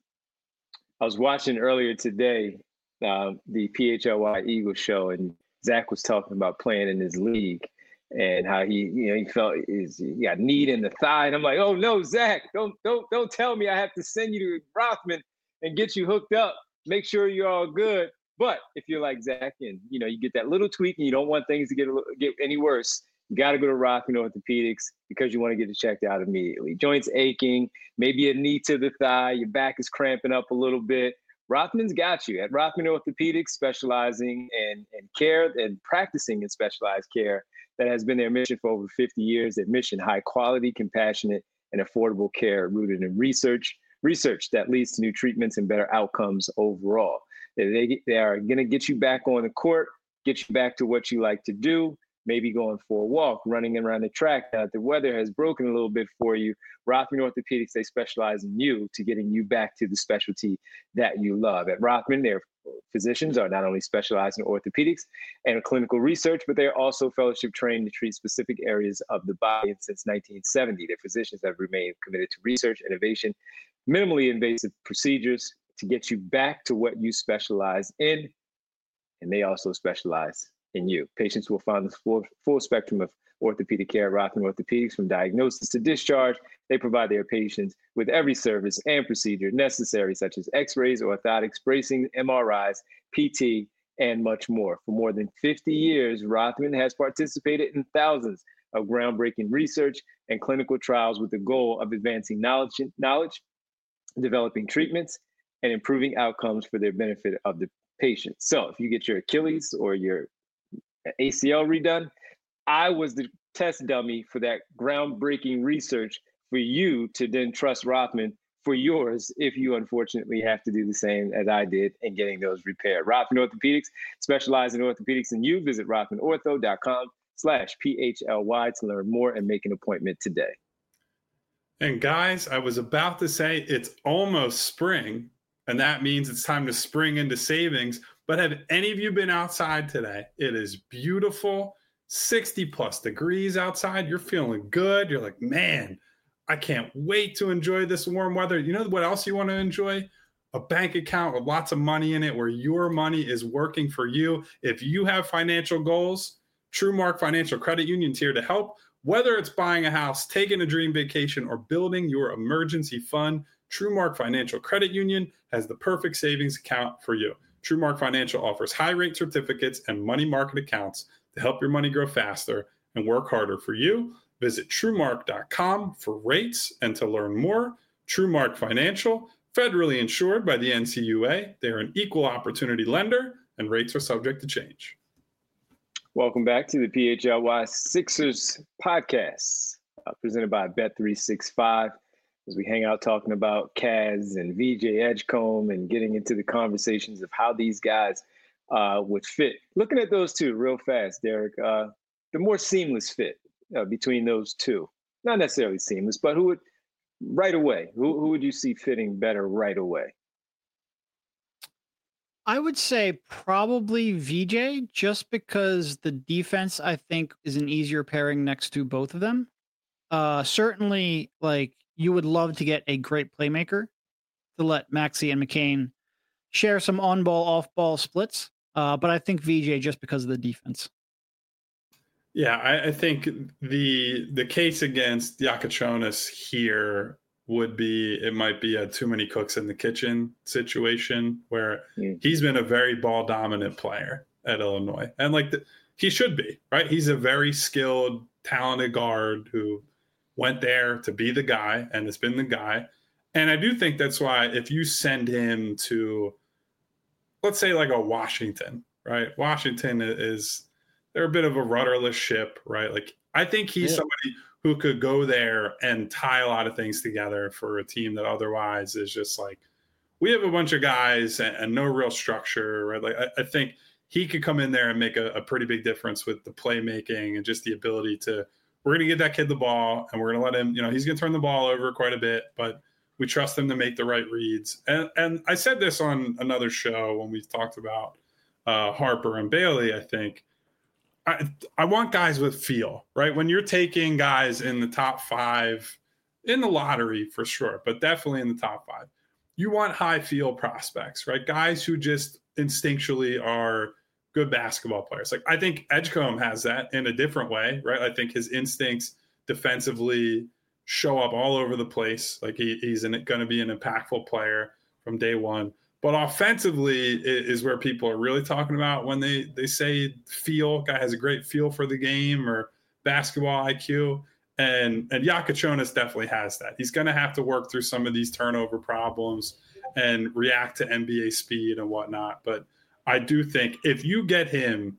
I was watching earlier today uh, the P H L Y Eagles show, and Zach was talking about playing in his league and how he, you know, he felt his, he got knee in the thigh. And I'm like, oh no, Zach, don't don't don't tell me I have to send you to Rothman and get you hooked up. Make sure you're all good. But if you're like Zach and, you know, you get that little tweak and you don't want things to get a, get any worse, you got to go to Rothman Orthopedics because you want to get it checked out immediately. Joints aching, maybe a knee to the thigh, your back is cramping up a little bit. Rothman's got you. At Rothman Orthopedics, specializing in, in care and practicing in specialized care that has been their mission for over fifty years. Their mission, high quality, compassionate, and affordable care rooted in research, research that leads to new treatments and better outcomes overall. They, they are going to get you back on the court, get you back to what you like to do, maybe going for a walk, running around the track. Now, the weather has broken a little bit for you. Rothman Orthopedics, they specialize in you to getting you back to the specialty that you love. At Rothman, their physicians are not only specialized in orthopedics and clinical research, but they're also fellowship trained to treat specific areas of the body. And since nineteen seventy, their physicians have remained committed to research, innovation, minimally invasive procedures, to get you back to what you specialize in, and they also specialize in you. Patients will find the full, full spectrum of orthopedic care at Rothman Orthopedics, from diagnosis to discharge. They provide their patients with every service and procedure necessary, such as x-rays, orthotics, bracing, M R Is, P T, and much more. For more than fifty years, Rothman has participated in thousands of groundbreaking research and clinical trials with the goal of advancing knowledge, knowledge, developing treatments, and improving outcomes for the benefit of the patient. So if you get your Achilles or your A C L redone, I was the test dummy for that groundbreaking research for you to then trust Rothman for yours if you unfortunately have to do the same as I did in getting those repaired. Rothman Orthopedics, specialize in orthopedics and you. Visit rothmanortho.com slash PHLY to learn more and make an appointment today. And guys, I was about to say it's almost spring, and that means it's time to spring into savings. But have any of you been outside today? It is beautiful, sixty plus degrees outside. You're feeling good. You're like, man, I can't wait to enjoy this warm weather. You know what else you want to enjoy? A bank account with lots of money in it where your money is working for you. If you have financial goals, TrueMark Financial Credit Union's here to help. Whether it's buying a house, taking a dream vacation, or building your emergency fund, TrueMark Financial Credit Union has the perfect savings account for you. TrueMark Financial offers high-rate certificates and money market accounts to help your money grow faster and work harder for you. Visit TrueMark dot com for rates and to learn more. TrueMark Financial, federally insured by the N C U A. They are an equal opportunity lender, and rates are subject to change. Welcome back to the P H L Y Sixers podcast, uh, presented by Bet three sixty-five. As we hang out talking about Kaz and V J Edgecombe and getting into the conversations of how these guys uh, would fit. Looking at those two real fast, Derek, uh, the more seamless fit uh, between those two. Not necessarily seamless, but who would, right away, who, who would you see fitting better right away? I would say probably V J, just because the defense, I think, is an easier pairing next to both of them. Uh, certainly, like, you would love to get a great playmaker to let Maxey and McCain share some on-ball, off-ball splits. Uh, but I think V J just because of the defense. Yeah, I, I think the the case against Yakachonis here would be it might be a too many cooks in the kitchen situation where mm. he's been a very ball dominant player at Illinois. And like the, he should be, right? He's a very skilled, talented guard who went there to be the guy and has been the guy. And I do think that's why if you send him to, let's say like a Washington, right? Washington is, they're a bit of a rudderless ship, right? Like I think he's yeah. somebody who could go there and tie a lot of things together for a team that otherwise is just like, we have a bunch of guys and, and no real structure, right? Like I, I think he could come in there and make a, a pretty big difference with the playmaking and just the ability to, we're going to get that kid the ball and we're going to let him, you know, he's going to turn the ball over quite a bit, but we trust him to make the right reads. And and I said this on another show when we talked about uh, Harper and Bailey, I think. I, I want guys with feel, right? When you're taking guys in the top five, in the lottery for sure, but definitely in the top five, you want high feel prospects, right? Guys who just instinctually are good basketball players. Like I think Edgecombe has that in a different way, right? I think his instincts defensively show up all over the place. Like he, he's going to be an impactful player from day one. But offensively is where people are really talking about when they, they say feel. Guy has a great feel for the game or basketball I Q. And and Yakachonis definitely has that. He's going to have to work through some of these turnover problems and react to N B A speed and whatnot. But I do think if you get him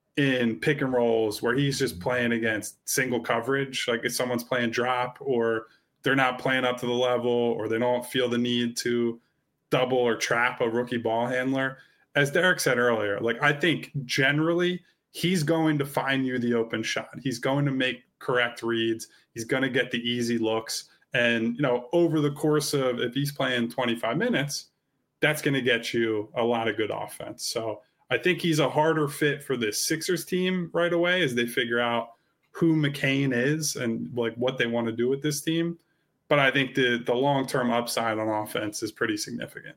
in pick and rolls where he's just playing against single coverage, like if someone's playing drop or they're not playing up to the level or they don't feel the need to double or trap a rookie ball handler, as Derek said earlier, like I think generally he's going to find you the open shot. He's going to make correct reads. He's going to get the easy looks. And, you know, over the course of, if he's playing twenty-five minutes, that's going to get you a lot of good offense. So I think he's a harder fit for this Sixers team right away as they figure out who McCain is and like what they want to do with this team. But I think the the long-term upside on offense is pretty significant.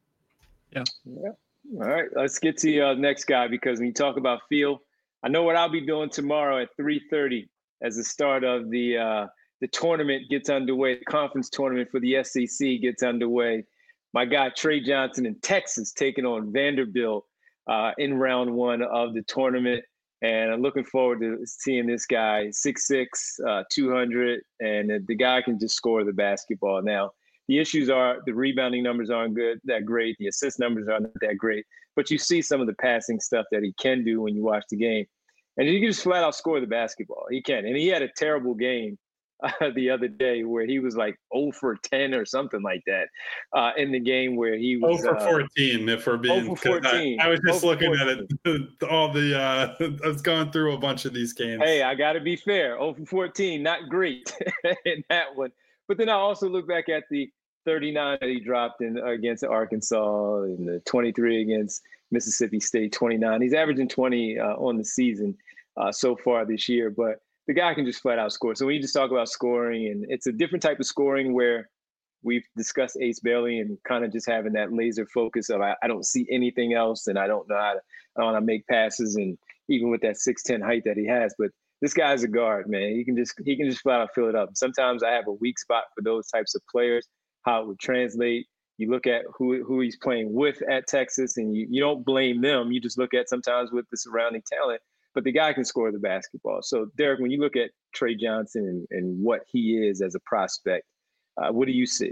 Yeah. Yeah. All right, let's get to the uh, next guy, because when you talk about feel, I know what I'll be doing tomorrow at three thirty as the start of the uh, the tournament gets underway. The conference tournament for the S E C gets underway. My guy Trey Johnson in Texas taking on Vanderbilt uh, in round one of the tournament. And I'm looking forward to seeing this guy, six six, uh, two hundred, and the guy can just score the basketball. Now, the issues are the rebounding numbers aren't good, that great. The assist numbers aren't that great. But you see some of the passing stuff that he can do when you watch the game. And he can just flat out score the basketball. He can. And he had a terrible game uh, the other day where he was like zero for ten or something like that uh, in the game where he was zero for fourteen, uh, if we're being. zero for fourteen. I, I was just looking at it, all the, uh, I was going through a bunch of these games. Hey, I got to be fair. zero for fourteen, not great in that one. But then I also look back at the thirty-nine that he dropped in against Arkansas and the twenty-three against Mississippi State, twenty-nine. He's averaging twenty uh, on the season uh, so far this year, but the guy can just flat out score. So when you just talk about scoring, and it's a different type of scoring where we've discussed Ace Bailey and kind of just having that laser focus of I, I don't see anything else and I don't know how to, I don't know how to make passes, and even with that six ten height that he has. But this guy's a guard, man. He can just he can just flat out fill it up. Sometimes I have a weak spot for those types of players, how it would translate. You look at who who he's playing with at Texas, and you, you don't blame them. You just look at sometimes with the surrounding talent. But the guy can score the basketball. So, Derek, when you look at Trey Johnson and, and what he is as a prospect, uh, what do you see?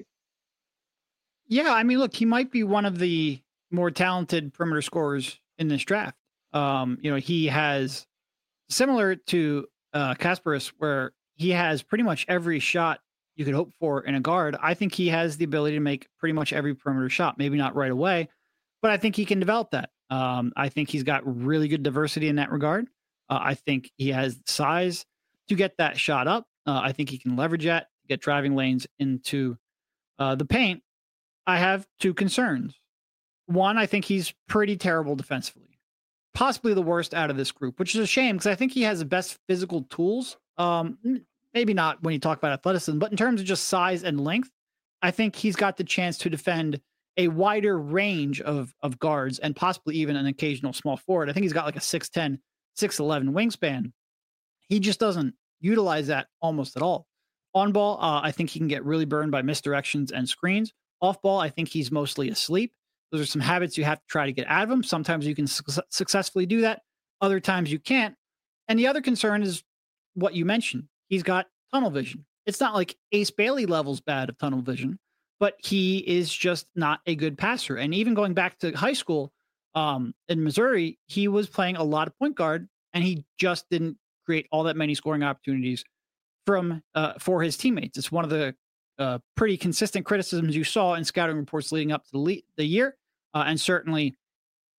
Yeah, I mean, look, he might be one of the more talented perimeter scorers in this draft. Um, you know, he has, similar to uh, Kasparis, where he has pretty much every shot you could hope for in a guard. I think he has the ability to make pretty much every perimeter shot, maybe not right away, but I think he can develop that. Um, I think he's got really good diversity in that regard. Uh, I think he has the size to get that shot up. Uh, I think he can leverage that, get driving lanes into uh, the paint. I have two concerns. One, I think he's pretty terrible defensively, possibly the worst out of this group, which is a shame because I think he has the best physical tools. Um, maybe not when you talk about athleticism, but in terms of just size and length, I think he's got the chance to defend a wider range of of guards and possibly even an occasional small forward. I think he's got like a six ten, six eleven wingspan. He just doesn't utilize that almost at all. On ball, uh, I think he can get really burned by misdirections and screens. Off ball, I think he's mostly asleep. Those are some habits you have to try to get out of him. Sometimes you can su- successfully do that. Other times you can't. And the other concern is what you mentioned. He's got tunnel vision. It's not like Ace Bailey levels bad of tunnel vision, but he is just not a good passer. And even going back to high school um, in Missouri, he was playing a lot of point guard, and he just didn't create all that many scoring opportunities from uh, for his teammates. It's one of the uh, pretty consistent criticisms you saw in scouting reports leading up to the, le- the year, uh, and certainly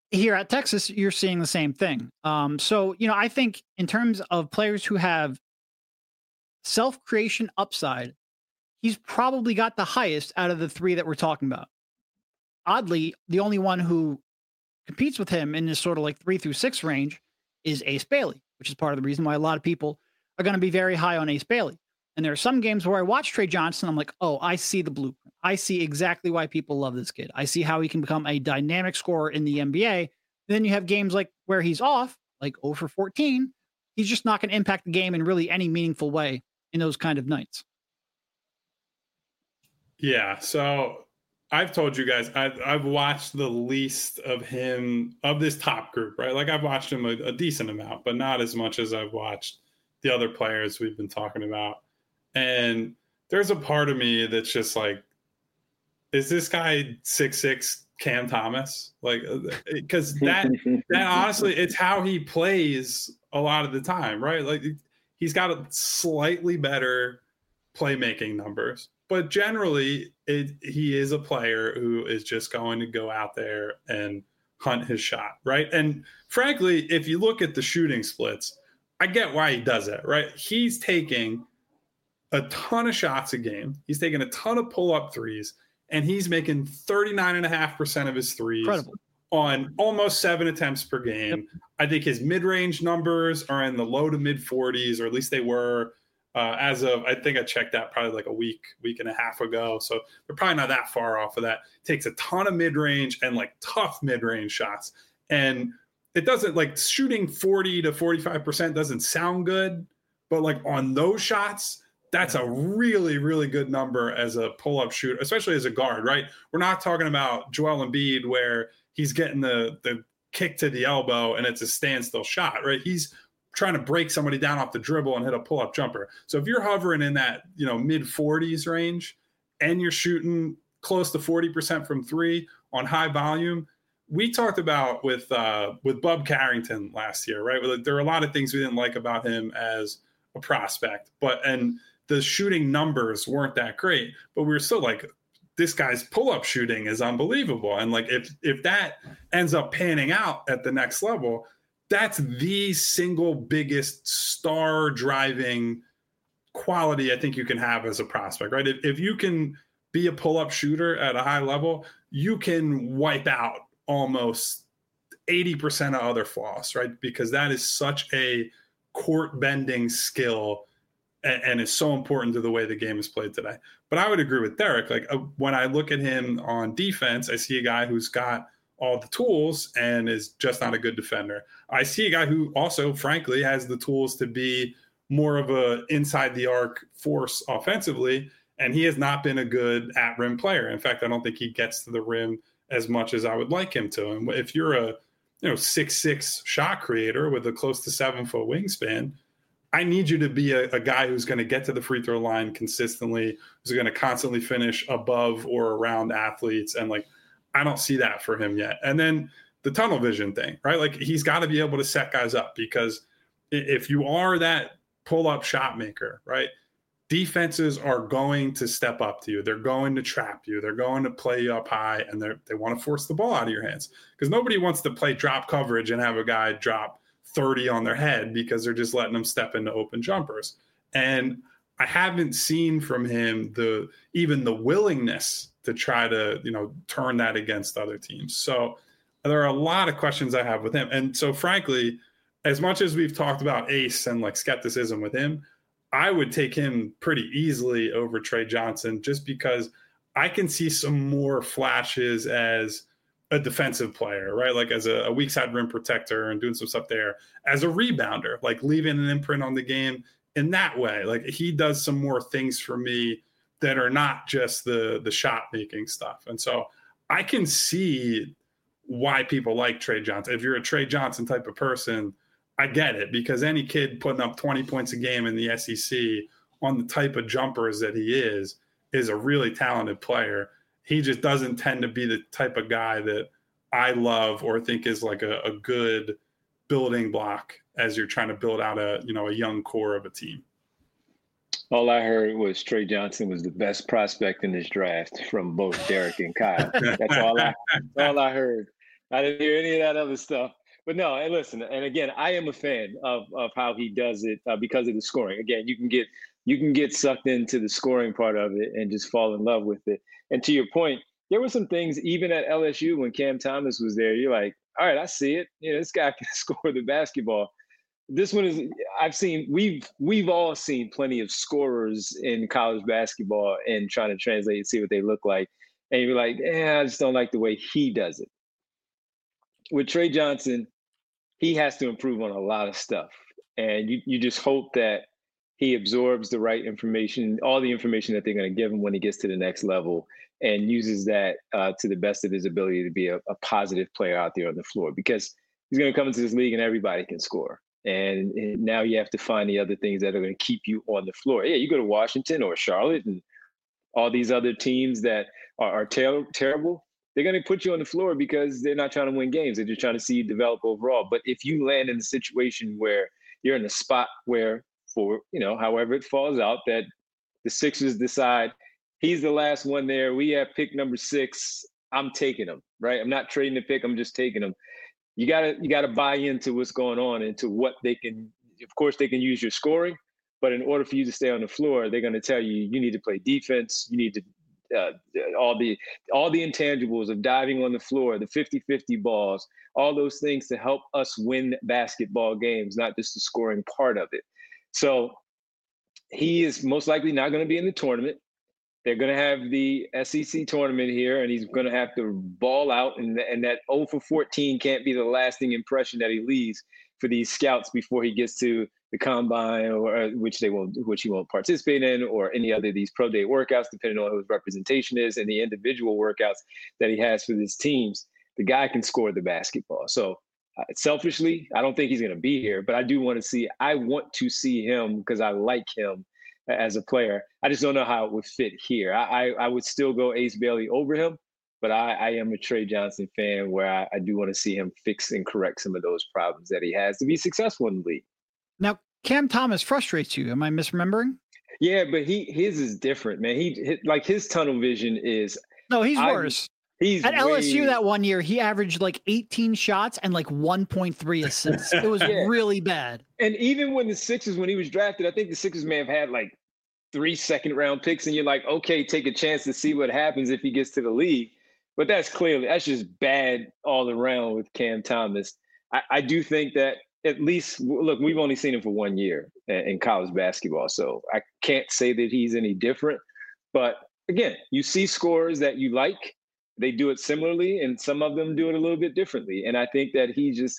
here at Texas, you're seeing the same thing. Um, so, you know, I think in terms of players who have self-creation upside, he's probably got the highest out of the three that we're talking about. Oddly, the only one who competes with him in this sort of like three through six range is Ace Bailey, which is part of the reason why a lot of people are going to be very high on Ace Bailey. And there are some games where I watch Trey Johnson, I'm like, oh, I see the blueprint. I see exactly why people love this kid. I see how he can become a dynamic scorer in the N B A. Then you have games like where he's off, like zero for fourteen. He's just not going to impact the game in really any meaningful way in those kind of nights. Yeah, so I've told you guys, I've, I've watched the least of him, of this top group, right? Like I've watched him a, a decent amount, but not as much as I've watched the other players we've been talking about. And there's a part of me that's just like, is this guy six six Cam Thomas? Like, because that, that honestly, it's how he plays a lot of the time, right? Like he's got a slightly better playmaking numbers, but generally it, he is a player who is just going to go out there and hunt his shot, right? And frankly, if you look at the shooting splits, I get why he does it, right? He's taking a ton of shots a game. He's taking a ton of pull-up threes, and he's making thirty-nine point five percent of his threes Incredible. on almost seven attempts per game. Yep. I think his mid-range numbers are in the low to mid-forties, or at least they were uh, as of, I think I checked that probably like a week, week and a half ago. So they're probably not that far off of that. Takes a ton of mid-range and like tough mid-range shots. And it doesn't, like shooting forty to forty-five percent doesn't sound good, but like on those shots, that's a really, really good number as a pull-up shooter, especially as a guard, right? We're not talking about Joel Embiid where he's getting the the kick to the elbow and it's a standstill shot, right? He's trying to break somebody down off the dribble and hit a pull-up jumper. So if you're hovering in that, you know, mid-forties range and you're shooting close to forty percent from three on high volume, we talked about with uh, with Bub Carrington last year, right? There are a lot of things we didn't like about him as a prospect, but and the shooting numbers weren't that great, but we were still like, this guy's pull-up shooting is unbelievable. And like, if, if that ends up panning out at the next level, that's the single biggest star driving quality I think you can have as a prospect, right? If, if you can be a pull-up shooter at a high level, you can wipe out almost eighty percent of other flaws, right? Because that is such a court bending skill and is so important to the way the game is played today. But I would agree with Derek. Like uh, when I look at him on defense, I see a guy who's got all the tools and is just not a good defender. I see a guy who also, frankly, has the tools to be more of a inside the arc force offensively, and he has not been a good at rim player. In fact, I don't think he gets to the rim as much as I would like him to. And if you're a you know six six shot creator with a close to seven foot wingspan, I need you to be a, a guy who's going to get to the free throw line consistently, who's going to constantly finish above or around athletes. And like, I don't see that for him yet. And then the tunnel vision thing, right? Like he's got to be able to set guys up, because if you are that pull up shot maker, right? Defenses are going to step up to you. They're going to trap you. They're going to play you up high, and they they want to force the ball out of your hands, because nobody wants to play drop coverage and have a guy drop thirty on their head because they're just letting them step into open jumpers. And I haven't seen from him the even the willingness to try to, you know, turn that against other teams. So there are a lot of questions I have with him. And so frankly, as much as we've talked about Ace and like skepticism with him, I would take him pretty easily over Trey Johnson, just because I can see some more flashes as a defensive player, right? Like as a, a weak side rim protector and doing some stuff there, as a rebounder, like leaving an imprint on the game in that way. Like he does some more things for me that are not just the, the shot making stuff. And so I can see why people like Trey Johnson. If you're a Trey Johnson type of person, I get it, because any kid putting up twenty points a game in the S E C on the type of jumpers that he is, is a really talented player. He just doesn't tend to be the type of guy that I love or think is like a, a good building block as you're trying to build out a, you know, a young core of a team. All I heard was Trey Johnson was the best prospect in this draft from both Derek and Kyle. That's all I, that's all I heard. I didn't hear any of that other stuff. But no, and listen, and again, I am a fan of of how he does it uh, because of the scoring. Again, you can get you can get sucked into the scoring part of it and just fall in love with it. And to your point, there were some things even at L S U when Cam Thomas was there. You're like, all right, I see it. You know, this guy can score the basketball. This one is I've seen we've we've all seen plenty of scorers in college basketball and trying to translate and see what they look like. And you're like, eh, I just don't like the way he does it. With Trey Johnson, he has to improve on a lot of stuff. And you, you just hope that he absorbs the right information, all the information that they're going to give him when he gets to the next level, and uses that uh, to the best of his ability to be a, a positive player out there on the floor. Because he's going to come into this league and everybody can score. And, and now you have to find the other things that are going to keep you on the floor. Yeah, you go to Washington or Charlotte and all these other teams that are, are ter- terrible. They're going to put you on the floor because they're not trying to win games. They're just trying to see you develop overall. But if you land in a situation where you're in a spot where, for, you know, however it falls out, that the Sixers decide he's the last one there, we have pick number six, I'm taking him, right? I'm not trading the pick, I'm just taking him. You gotta you gotta buy into what's going on, into what they can. Of course, they can use your scoring, but in order for you to stay on the floor, they're going to tell you you need to play defense. You need to uh, all the all the intangibles of diving on the floor, the fifty-fifty balls, all those things to help us win basketball games, not just the scoring part of it. So he is most likely not going to be in the tournament. They're going to have the S E C tournament here, and he's going to have to ball out, and, and that oh for fourteen can't be the lasting impression that he leaves for these scouts before he gets to the combine, or which they won't, which he won't participate in, or any other of these pro day workouts, depending on who his representation is and the individual workouts that he has for his teams. The guy can score the basketball. So uh, selfishly, I don't think he's going to be here, but I do want to see. I want to see him because I like him as a player. I just don't know how it would fit here. I, I, I would still go Ace Bailey over him, but I, I am a Trey Johnson fan where I, I do want to see him fix and correct some of those problems that he has to be successful in the league. Now, Cam Thomas frustrates you. Am I misremembering? Yeah, but he his is different, man. He, he like his tunnel vision is no, he's I, worse. He's at way... L S U that one year. He averaged like eighteen shots and like one point three assists. It was yeah. really bad. And even when the Sixers, when he was drafted, I think the Sixers may have had like three second round picks, and you're like, okay, take a chance to see what happens if he gets to the league. But that's clearly that's just bad all around with Cam Thomas. I, I do think that at least look, we've only seen him for one year in college basketball, so I can't say that he's any different. But again, you see scores that you like. They do it similarly, and some of them do it a little bit differently. And I think that he just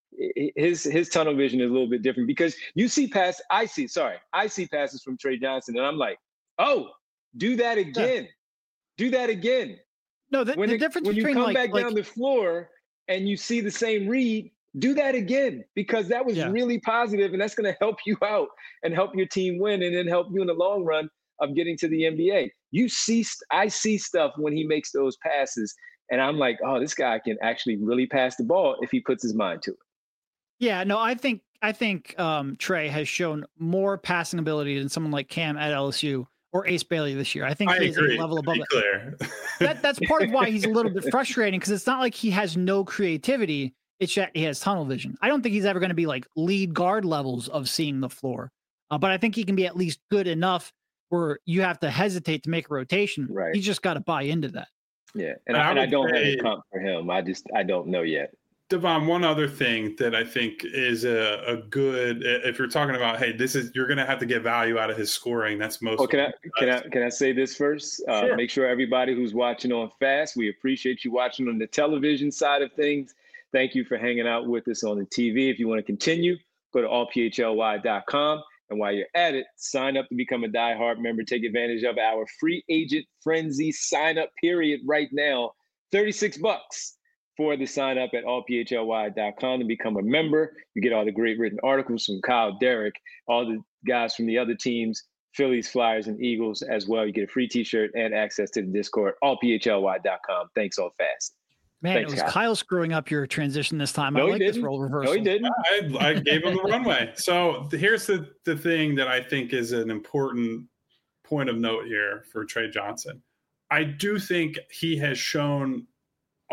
his his tunnel vision is a little bit different because you see pass. I see, sorry, I see passes from Trey Johnson, and I'm like, oh, do that again, yeah. do that again. No, the, when the it, difference when you between come like, back like, down the floor and you see the same read, do that again because that was yeah. really positive, and that's going to help you out and help your team win, and then help you in the long run of getting to the N B A. You see, I see stuff when he makes those passes, and I'm like, oh, this guy can actually really pass the ball if he puts his mind to it. Yeah, no, I think I think um, Trey has shown more passing ability than someone like Cam at L S U or Ace Bailey this year. I think I he's agree. a level above it. Clear. that, that's part of why he's a little bit frustrating because it's not like he has no creativity. It's that he has tunnel vision. I don't think he's ever going to be like lead guard levels of seeing the floor, uh, but I think he can be at least good enough where you have to hesitate to make a rotation. Right. You just got to buy into that. Yeah, and, and I, and I don't say, have a comp for him. I just I don't know yet. Devon, one other thing that I think is a, a good, if you're talking about, hey, this is, you're going to have to get value out of his scoring. That's most. Oh, can I, can I, can I say this first? Uh, sure. Make sure everybody who's watching on Fast, we appreciate you watching on the television side of things. Thank you for hanging out with us on the T V. If you want to continue, go to all p h l y dot com. And while you're at it, sign up to become a diehard member. Take advantage of our free agent frenzy sign up period right now. thirty-six bucks. For the sign up at all p h l y dot com to become a member. You get all the great written articles from Kyle, Derek, all the guys from the other teams, Phillies, Flyers, and Eagles as well. You get a free t-shirt and access to the Discord, all p h l y dot com. Thanks all fast. Man, Thanks, it was Kyle. Kyle screwing up your transition this time. No, I like he this didn't. role reversal. No, he didn't. I, I gave him the runway. So here's the, the thing that I think is an important point of note here for Trey Johnson. I do think he has shown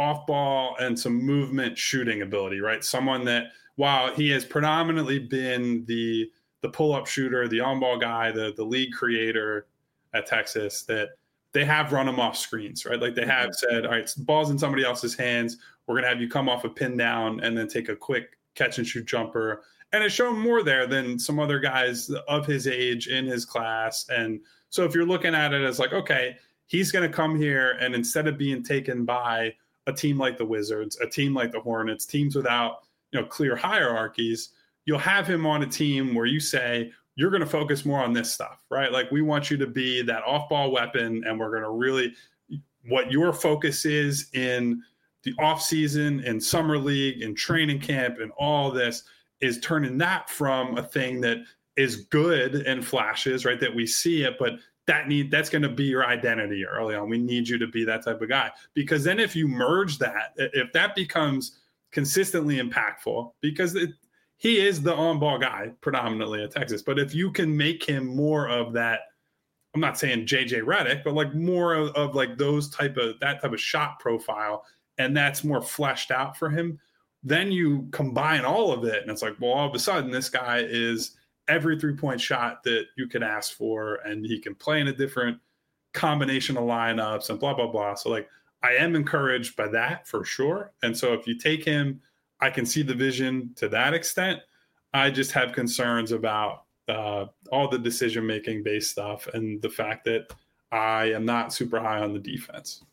off ball and some movement shooting ability, right? Someone that, while he has predominantly been the the pull-up shooter, the on-ball guy, the the league creator at Texas, that they have run him off screens, right? Like they have said, all right, ball's in somebody else's hands. We're going to have you come off a pin down and then take a quick catch and shoot jumper. And it's shown more there than some other guys of his age in his class. And so if you're looking at it as like, okay, he's going to come here and instead of being taken by a team like the Wizards, a team like the Hornets, teams without, you know, clear hierarchies, you'll have him on a team where you say, you're going to focus more on this stuff, right? Like we want you to be that off-ball weapon, and we're going to really, what your focus is in the off-season, in summer league, in training camp, and all this is turning that from a thing that is good and flashes, right? That we see it, but that need that's going to be your identity early on. We need you to be that type of guy, because then if you merge that, if that becomes consistently impactful, because it, he is the on-ball guy predominantly at Texas. But if you can make him more of that, I'm not saying J J Redick, but like more of, of like those type of, that type of shot profile, and that's more fleshed out for him, then you combine all of it. And it's like, well, all of a sudden this guy is every three-point shot that you could ask for, and he can play in a different combination of lineups and blah, blah, blah. So like, I am encouraged by that for sure. And so if you take him, I can see the vision to that extent. I just have concerns about uh, all the decision-making based stuff and the fact that I am not super high on the defense.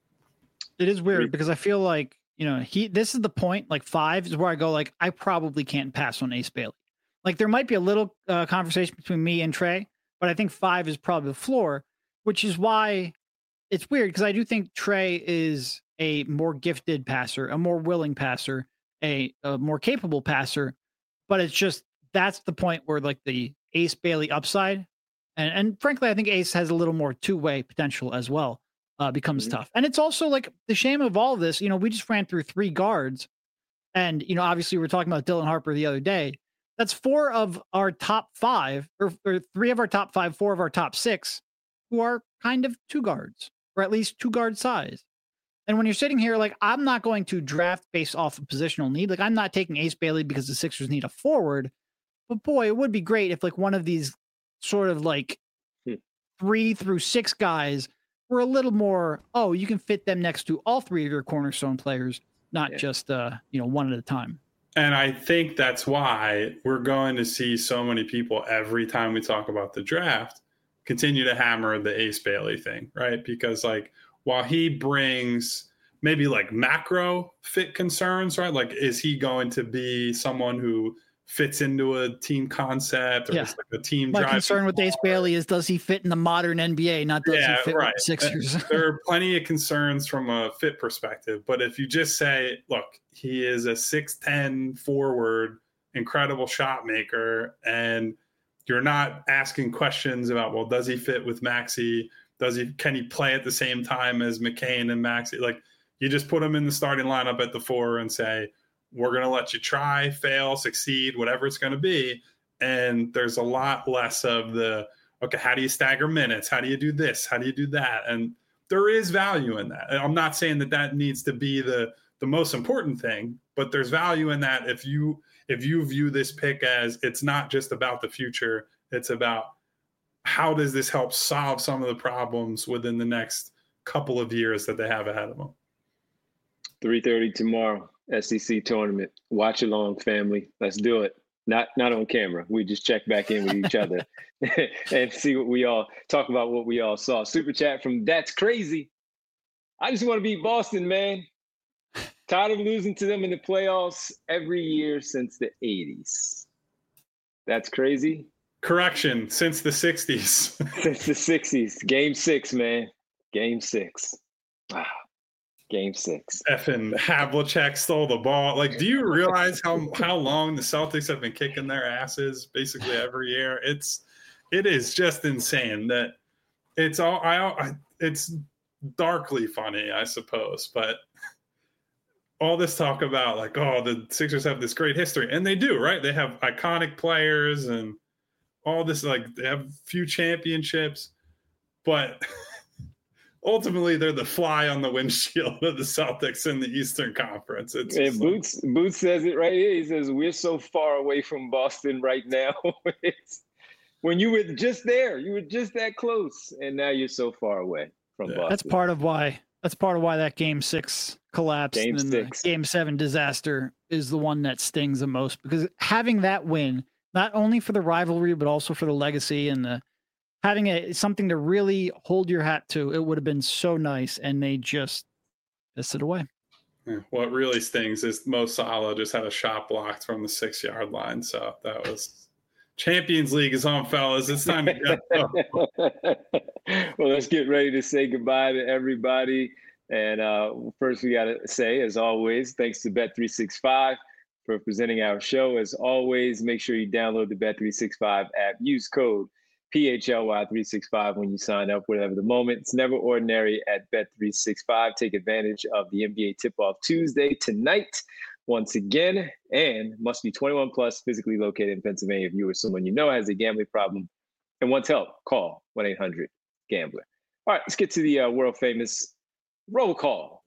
It is weird because I feel like, you know, he, this is the point, like five is where I go, like, I probably can't pass on Ace Bailey. Like there might be a little uh, conversation between me and Trey, but I think five is probably the floor, which is why it's weird, because I do think Trey is a more gifted passer, a more willing passer, A, a more capable passer, but it's just that's the point where like the Ace Bailey upside, and and frankly, I think Ace has a little more two way potential as well, uh, becomes mm-hmm. tough. And it's also like the shame of all this. You know, we just ran through three guards, and you know, obviously, we were talking about Dylan Harper the other day. That's four of our top five, or, or three of our top five, four of our top six, who are kind of two guards, or at least two guard size. And when you're sitting here, like, I'm not going to draft based off of positional need. Like, I'm not taking Ace Bailey because the Sixers need a forward. But boy, it would be great if like one of these sort of like hmm. three through six guys were a little more, oh, you can fit them next to all three of your cornerstone players, not yeah. just, uh, you know, one at a time. And I think that's why we're going to see so many people every time we talk about the draft continue to hammer the Ace Bailey thing, right? Because like, while he brings maybe like macro fit concerns, right? Like, is he going to be someone who fits into a team concept or yeah. like a team My drive? concern with Ace Bailey is, does he fit in the modern N B A? Not does yeah, he fit right. with the Sixers? There are plenty of concerns from a fit perspective, but if you just say, look, he is a six ten forward, incredible shot maker, and you're not asking questions about, well, does he fit with Maxey? Does he, can he play at the same time as McCain and Maxey? Like, you just put him in the starting lineup at the four and say, we're going to let you try, fail, succeed, whatever it's going to be. And there's a lot less of the, okay, how do you stagger minutes? How do you do this? How do you do that? And there is value in that. I'm not saying that that needs to be the, the most important thing, but there's value in that. If you, if you view this pick as it's not just about the future, it's about, how does this help solve some of the problems within the next couple of years that they have ahead of them? three thirty tomorrow, S E C tournament. Watch along, family. Let's do it. Not not on camera. We just check back in with each other and see what we all talk about, what we all saw. Super chat from That's Crazy. I just want to beat Boston, man. Tired of losing to them in the playoffs every year since the eighties. That's crazy. Correction, since the sixties. Since the sixties. Game six, man. Game six. Wow. Game six. Effing Havlicek stole the ball. Like, do you realize how how long the Celtics have been kicking their asses basically every year? It's it is just insane that it's all I, I it's darkly funny, I suppose, but all this talk about like, oh, the Sixers have this great history, and they do, right? They have iconic players and all this, like they have a few championships, but ultimately they're the fly on the windshield of the Celtics in the Eastern Conference. It's and Boots like, Boots says it right here. He says, we're so far away from Boston right now. It's, when you were just there, you were just that close, and now you're so far away from yeah. Boston. That's part of why that's part of why that game six collapsed game and six. the game seven disaster is the one that stings the most, because having that win, not only for the rivalry, but also for the legacy and the having a something to really hold your hat to, it would have been so nice, and they just pissed it away. Yeah, what really stings is Mo Salah just had a shot blocked from the six yard line. So that was Champions League is on, fellas. It's time to go. Well, let's get ready to say goodbye to everybody. And uh, first, we got to say, as always, thanks to Bet three sixty-five for presenting our show. As always, make sure you download the Bet three sixty-five app. Use code P H L Y three sixty-five when you sign up, whatever the moment. It's never ordinary at Bet three sixty-five. Take advantage of the N B A tip-off Tuesday tonight once again, and must be twenty-one plus, physically located in Pennsylvania. If you or someone you know has a gambling problem and wants help, call one eight hundred gambler. All right, let's get to the uh, world-famous roll call.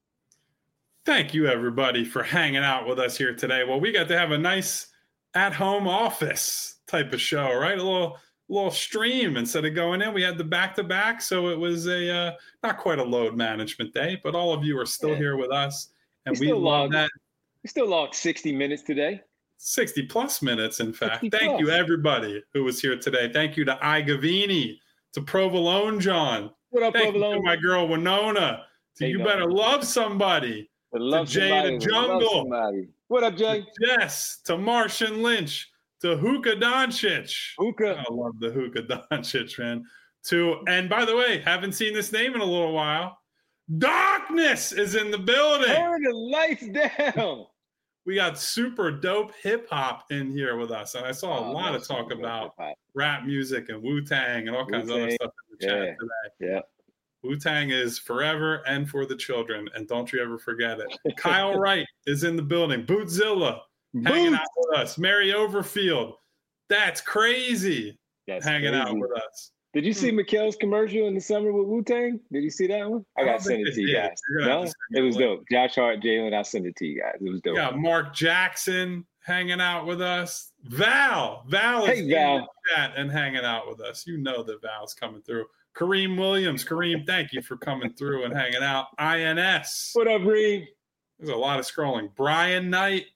Thank you, everybody, for hanging out with us here today. Well, we got to have a nice at-home office type of show, right? A little... little stream instead of going in. We had the back-to-back, so it was a uh, not quite a load management day, but all of you are still yeah. here with us, and we, we love logged, that. We still logged sixty minutes today. sixty plus minutes, in fact. Thank plus. you, everybody who was here today. Thank you to Igavini, to Provolone John. What up, Thank Provolone? you to my girl Winona. To hey, You no. Better Love Somebody. Love to Jay somebody. the Jungle. What up, Jay? To Jess. To Martian Lynch. To Hookah Doncic. Hookah. I love the Hookah Doncic, man. To, and by the way, haven't seen this name in a little while. Darkness is in the building. Turn the lights down. We got super dope hip hop in here with us. And I saw a oh, lot of talk about hip-hop. Rap music and Wu-Tang and all kinds Wu-Tang. of other stuff in the chat yeah. today. Yeah. Wu-Tang is forever and for the children. And don't you ever forget it. Kyle Wright is in the building. Bootzilla. Hanging out with us. Mary Overfield. That's crazy. That's hanging crazy. out with us. Did you see hmm. Mikhail's commercial in the summer with Wu-Tang? Did you see that one? I, I got to send it to you did. guys. No? It was dope. Josh Hart, Jalen, I'll send it to you guys. It was dope. Yeah, Mark Jackson hanging out with us. Val. Val is hey, Val. in the chat and hanging out with us. You know that Val's coming through. Kareem Williams. Kareem, thank you for coming through and hanging out. I N S. What up, Reem? There's a lot of scrolling. Brian Knight.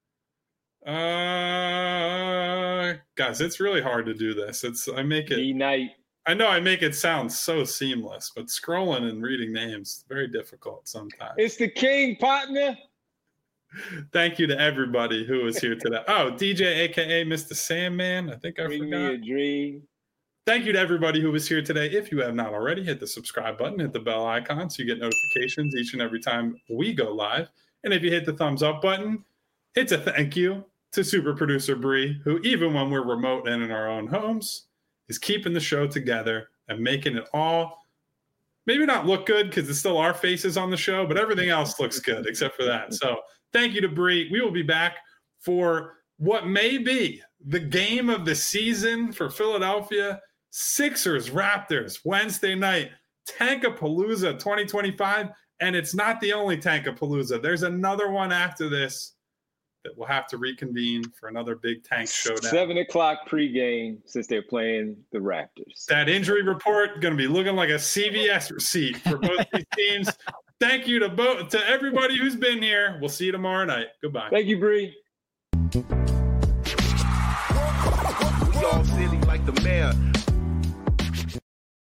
Uh, guys, it's really hard to do this. It's I make it. D-Night. I know I make it sound so seamless, but scrolling and reading names very difficult sometimes. It's the king, partner. Thank you to everybody who was here today. Oh, D J, aka Mister Sandman. I think I Bring forgot. Me a dream. Thank you to everybody who was here today. If you have not already, hit the subscribe button, hit the bell icon so you get notifications each and every time we go live. And if you hit the thumbs up button, it's a thank you to super producer Bree, who even when we're remote and in our own homes, is keeping the show together and making it all maybe not look good because it's still our faces on the show, but everything else looks good except for that. So thank you to Bree. We will be back for what may be the game of the season for Philadelphia. Sixers Raptors Wednesday night, Tankapalooza twenty twenty-five. And it's not the only Tankapalooza. There's another one after this that we'll have to reconvene for another big tank showdown. Seven o'clock pregame since they're playing the Raptors. That injury report going to be looking like a C V S receipt for both these teams. Thank you to both to everybody who's been here. We'll see you tomorrow night. Goodbye. Thank you, Bree. We all silly like the mayor.